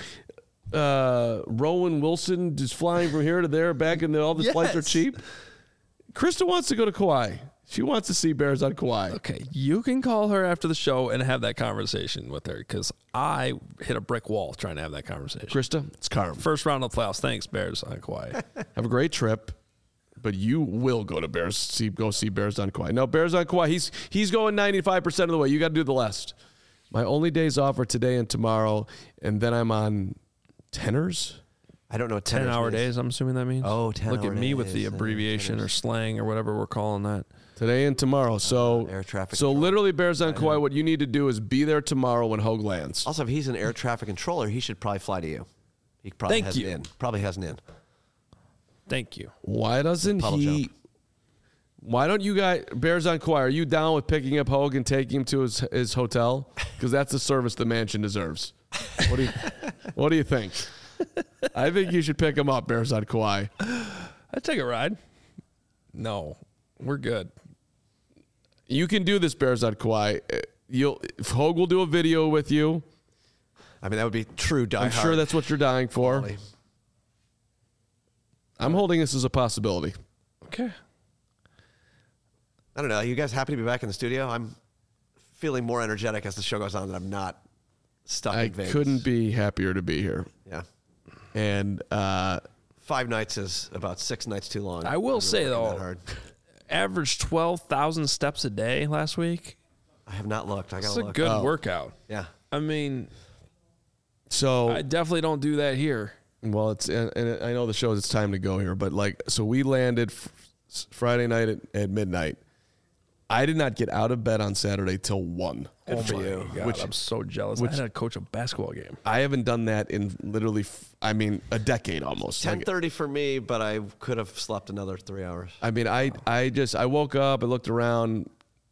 Rowan Wilson just flying from here to there back and all the flights are cheap? Krista wants to go to Kauai. She wants to see Bears on Kauai. Okay, you can call her after the show and have that conversation with her because I hit a brick wall trying to have that conversation. Krista, it's Carm. First round of the playoffs. Thanks, Bears on Kauai. Have a great trip. But you will go to go see Bears on Kauai. No, Bears on Kauai. He's going 95% of the way. You got to do the rest. My only days off are today and tomorrow, and then I'm on tenors. I don't know what 10-hour days, I'm assuming that means. Oh, 10-hour Look at me with the days, abbreviation or slang or whatever we're calling that. Today and tomorrow. So air traffic so control. literally Bears on Kauai, what you need to do is be there tomorrow when Hogue lands. Also, if he's an air traffic controller, he should probably fly to you. He probably has an in. Probably has an in. Thank you. Why doesn't Puddle he jump. Why don't you guys, Bears on Kauai, are you down with picking up Hogue and taking him to his hotel? Because that's the service the mansion deserves. What do you think? I think you should pick him up, Bears on Kauai. I'd take a ride. No, we're good. You can do this, Bears on Kauai. Hogue will do a video with you. I mean, that would be true die I'm hard. sure that's what you're dying for. Quality. I'm holding this as a possibility. Okay. I don't know. Are you guys happy to be back in the studio? I'm feeling more energetic as the show goes on that I'm not stuck I in Vegas. couldn't be happier to be here. Yeah. And 5 nights is about 6 nights too long. I will say, working that though, hard. averaged 12,000 steps a day last week. I have not looked. I It's gotta a look. good workout. Yeah. I mean, so I definitely don't do that here. well, and I know the show it's time to go here, but so we landed Friday night at midnight. I did not get out of bed on Saturday till 1. Good for you. God, I'm so jealous. I had to coach a basketball game. I haven't done that in literally, a decade almost. 10:30 for me, but I could have slept another 3 hours. I mean, I woke up, I looked around,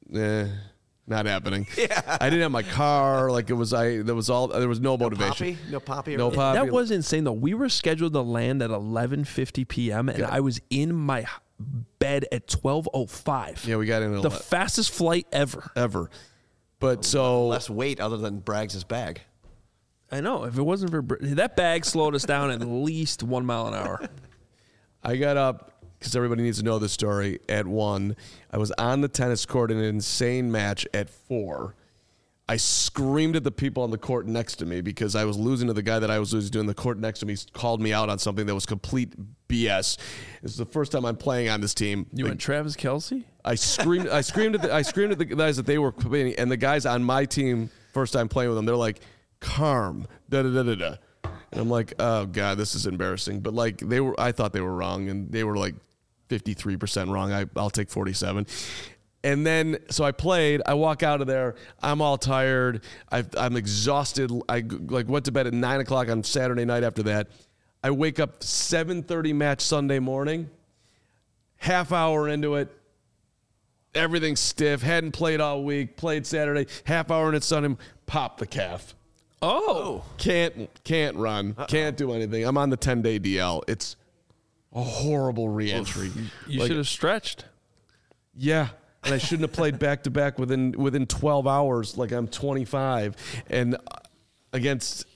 not happening. Yeah. I didn't have my car. There was no motivation. No Poppy? No Poppy. That was insane, though. We were scheduled to land at 11:50 p.m., and I was in my bed at 12:05. Yeah, we got in The fastest flight ever. But so Less weight other than Braggs' bag. I know. If it wasn't for that bag, slowed us down at least 1 mile an hour. I got up because everybody needs to know this story at 1. I was on the tennis court in an insane match at 4. I screamed at the people on the court next to me because I was losing to the guy that I was losing to, and the court next to me called me out on something that was complete BS. This is the first time I'm playing on this team. You and Travis Kelce? I screamed at the guys that they were playing, and the guys on my team, first time playing with them, they're like, Carm, da da da da da. And I'm like, oh God, this is embarrassing. But I thought they were wrong, and they were like 53% wrong. I'll take 47. And then, so I played. I walk out of there. I'm all tired. I'm exhausted. I went to bed at 9 o'clock on Saturday night after that. I wake up 7:30 match Sunday morning. Half hour into it, everything's stiff. Hadn't played all week. Played Saturday. Half hour into Sunday, pop the calf. Oh. Can't run. Can't do anything. I'm on the 10-day DL. It's a horrible re-entry. You should have stretched. Yeah. And I shouldn't have played back-to-back within 12 hours like I'm 25. And against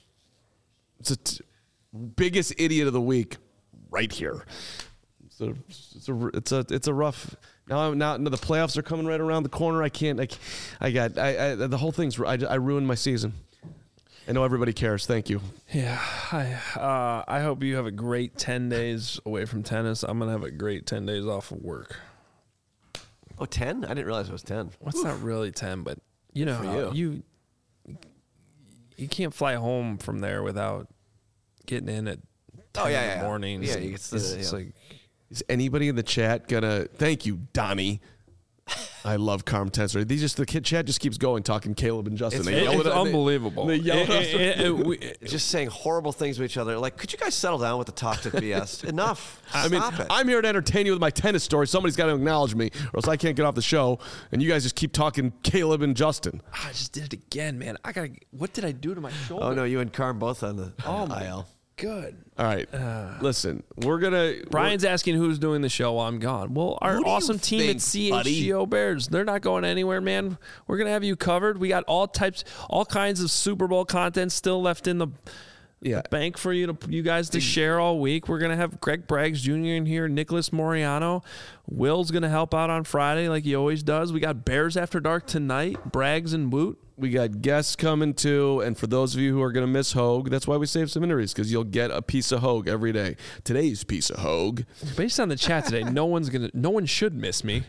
biggest idiot of the week right here. So it's a rough. Now the playoffs are coming right around the corner. The whole thing's. I ruined my season. I know everybody cares. Thank you. Yeah. I hope you have a great 10 days away from tennis. I'm going to have a great 10 days off of work. Oh, 10? I didn't realize it was 10. Well, it's not really 10, but you know, For how you can't fly home from there without getting in at 10 in the morning. Yeah, it's like, is anybody in the chat gonna? Thank you, Donnie. I love Carm Tensor. The chat just keeps going, talking Caleb and Justin. it's unbelievable. They yell at us. Just saying horrible things to each other. Like, could you guys settle down with the toxic BS? Enough. Stop it. I'm here to entertain you with my tennis story. Somebody's got to acknowledge me, or else I can't get off the show. And you guys just keep talking Caleb and Justin. I just did it again, man. What did I do to my shoulder? Oh, no, you and Carm both on the IL. Good. All right. Listen, Brian's asking who's doing the show while I'm gone. Well, our Who do you awesome team at think, buddy? CHGO Bears, they're not going anywhere, man. We're going to have you covered. We got all kinds of Super Bowl content still left in the bank for you guys to share all week. We're going to have Greg Braggs Jr. in here, Nicholas Moriano. Will's going to help out on Friday like he always does. We got Bears After Dark tonight, Braggs and Woot. We got guests coming too, and for those of you who are going to miss Hogue, that's why we save some interviews, because you'll get a piece of Hogue every day. Today's piece of Hogue. Based on the chat today, no one should miss me.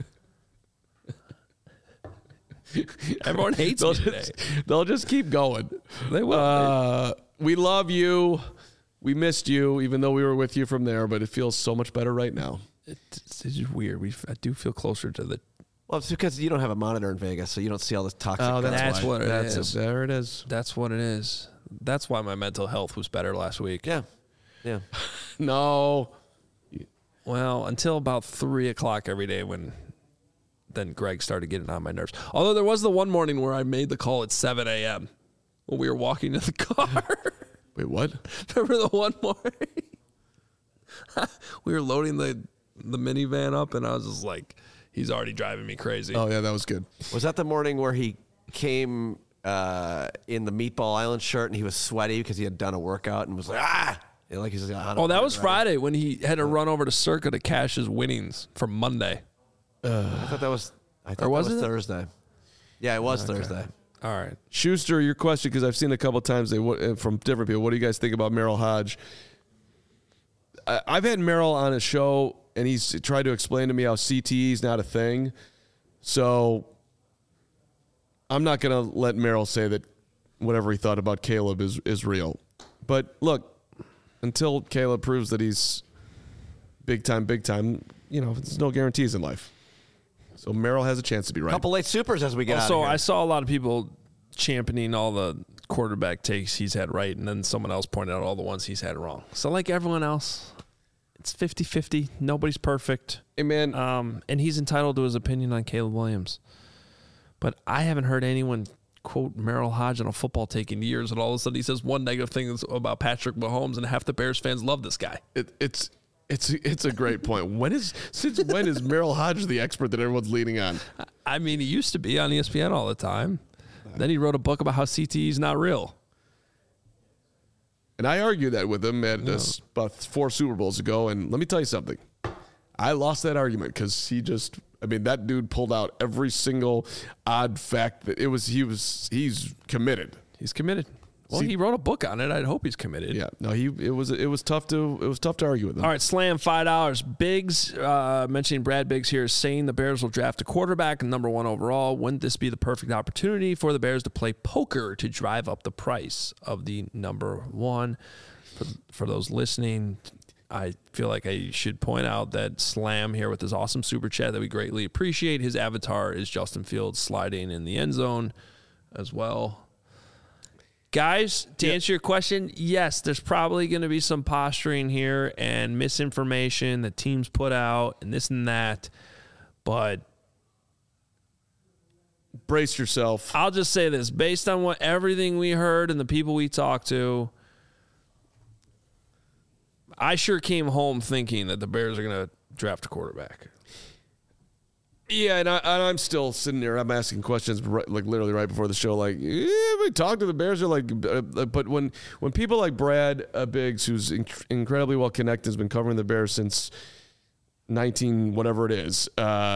Everyone hates me today. They'll just keep going. They will. We love you. We missed you, even though we were with you from there, but it feels so much better right now. It's just weird. I do feel closer to the. Well, it's because you don't have a monitor in Vegas, so you don't see all this toxic. Oh, that's what it is. There it is. That's what it is. That's why my mental health was better last week. Yeah. No. Well, until about 3 o'clock every day when then Greg started getting on my nerves. Although there was the one morning where I made the call at 7 a.m. when we were walking to the car. Wait, what? Remember the one morning? We were loading the minivan up, and I was just like, he's already driving me crazy. Oh, yeah, that was good. Was that the morning where he came in the Meatball Island shirt and he was sweaty because he had done a workout and was like, ah! And like he's like, oh, that was Friday when he had to run over to Circa to cash his winnings from Monday. I thought that was Thursday. Yeah, it was Thursday. All right. Schuster, your question, because I've seen a couple times from different people. What do you guys think about Merrill Hodge? I've had Merrill on a show, and he's tried to explain to me how CTE is not a thing. So I'm not going to let Merrill say that whatever he thought about Caleb is real. But look, until Caleb proves that he's big time, there's no guarantees in life. So Merrill has a chance to be right. Couple late supers as we get out of So here. I saw a lot of people championing all the quarterback takes he's had right, and then someone else pointed out all the ones he's had wrong. So like everyone else, it's 50-50. Nobody's perfect. Hey, man. And he's entitled to his opinion on Caleb Williams. But I haven't heard anyone quote Merrill Hodge on a football take in years, and all of a sudden he says one negative thing about Patrick Mahomes, and half the Bears fans love this guy. It's a great point. Since when is Merrill Hodge the expert that everyone's leaning on? I mean, he used to be on ESPN all the time. Then he wrote a book about how CTE is not real. And I argued that with him at about 4 Super Bowls ago. And let me tell you something. I lost that argument because that dude pulled out every single odd fact that he's committed. He's committed. Well, he wrote a book on it. I'd hope he's committed. Yeah. No, it was tough to argue with him. All right, Slam, $5. Biggs, mentioning Brad Biggs here, is saying the Bears will draft a quarterback and number 1 overall. Wouldn't this be the perfect opportunity for the Bears to play poker to drive up the price of the number 1? For those listening, I feel like I should point out that Slam here with his awesome super chat that we greatly appreciate. His avatar is Justin Fields sliding in the end zone as well. Guys, to answer your question, yes, there's probably going to be some posturing here and misinformation that teams put out and this and that. But brace yourself. I'll just say this. Based on everything we heard and the people we talked to, I sure came home thinking that the Bears are going to draft a quarterback. Yeah, and I'm still sitting there. I'm asking questions literally right before the show. We talked to the Bears. Are but when people like Brad Biggs, who's incredibly well connected, has been covering the Bears since 19 whatever it is.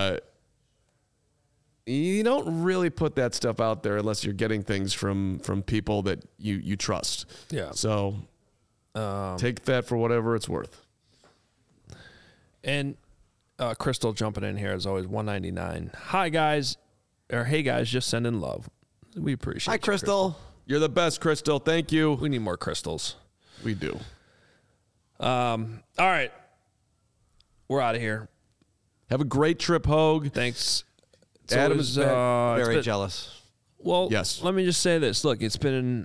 You don't really put that stuff out there unless you're getting things from people that you trust. Yeah. So take that for whatever it's worth. And Crystal jumping in here as always, $1.99. Hi guys, or hey guys, just sending love. We appreciate. Hi, Crystal. You're the best, Crystal. Thank you. We need more crystals. We do. All right, we're out of here. Have a great trip, Hogue. Thanks. Adam is very jealous. Well, yes. Let me just say this. Look, it's been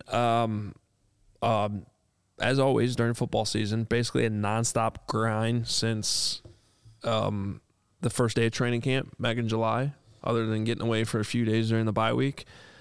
as always during football season, basically a nonstop grind since the first day of training camp back in July, other than getting away for a few days during the bye week.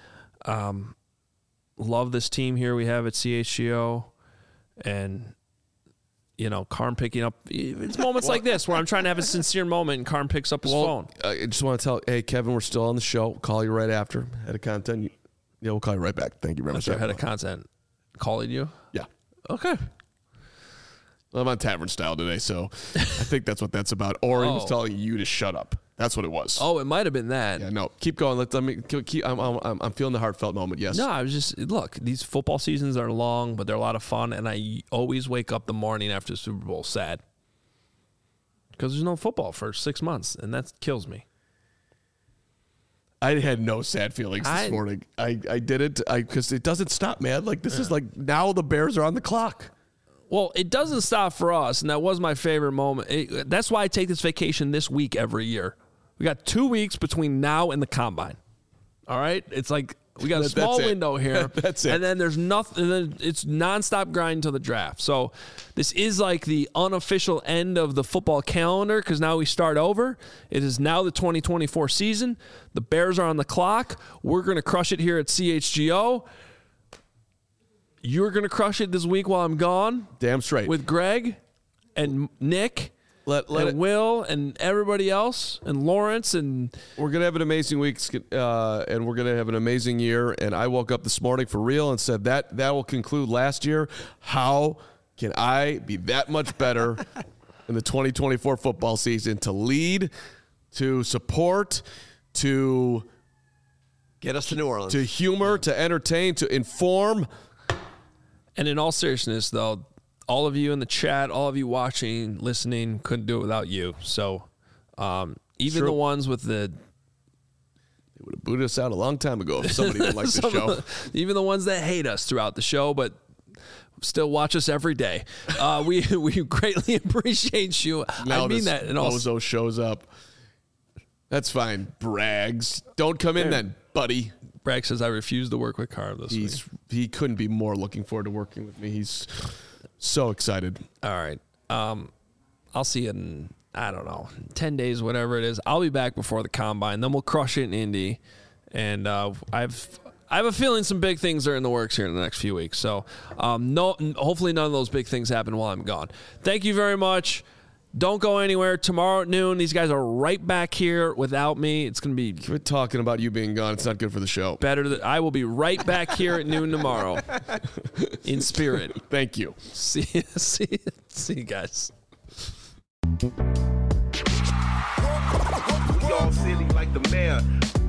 Love this team here we have at CHGO, and Carm picking up. It's moments like this where I'm trying to have a sincere moment, and Carm picks up his phone. I just want to tell, hey Kevin, we're still on the show. Call you right after. Head of content. Yeah, we'll call you right back. Thank you very much. Your head of content calling you. Yeah. Okay. Well, I'm on Tavern Style today, so I think that's what that's about. Or he was telling you to shut up. That's what it was. Oh, it might have been that. Yeah, no. Keep going. Let me keep. I'm feeling the heartfelt moment. Yes. No, I was just look. These football seasons are long, but they're a lot of fun, and I always wake up the morning after the Super Bowl sad because there's no football for 6 months, and that kills me. I had no sad feelings this morning. I did it because it doesn't stop, man. This is now the Bears are on the clock. Well, it doesn't stop for us, and that was my favorite moment. That's why I take this vacation this week every year. We got 2 weeks between now and the Combine. All right? It's like We got a small That's it. window here. That's it. And then there's nothing. And then it's nonstop grind until the draft. So this is like the unofficial end of the football calendar because now we start over. It is now the 2024 season. The Bears are on the clock. We're going to crush it here at CHGO. You're going to crush it this week while I'm gone. Damn straight. With Greg and Nick. Let and it, Will and everybody else and Lawrence and we're gonna have an amazing week, and we're gonna have an amazing year. And I woke up this morning for real and said that will conclude last year. How can I be that much better in the 2024 football season to lead, to support, to Get us to New Orleans. to humor, to entertain, to inform? And in all seriousness, though, all of you in the chat, all of you watching, listening, couldn't do it without you. So even True. the ones with the... They would have booted us out a long time ago if somebody didn't like the show. Even the ones that hate us throughout the show, but still watch us every day. We greatly appreciate you. Now I mean this that. And also, bozo shows up. That's fine. Brags. Don't come in then, buddy. Bragg says, I refuse to work with Carr this week. He couldn't be more looking forward to working with me. He's so excited. All right. I'll see you in, I don't know, 10 days, whatever it is. I'll be back before the Combine. Then we'll crush it in Indy. And I have a feeling some big things are in the works here in the next few weeks. So hopefully none of those big things happen while I'm gone. Thank you very much. Don't go anywhere. Tomorrow at noon, these guys are right back here without me. It's going to be Quit talking about you being gone. It's not good for the show. better. I will be right back here at noon tomorrow in spirit. Thank you. See you guys. We all silly like the mayor.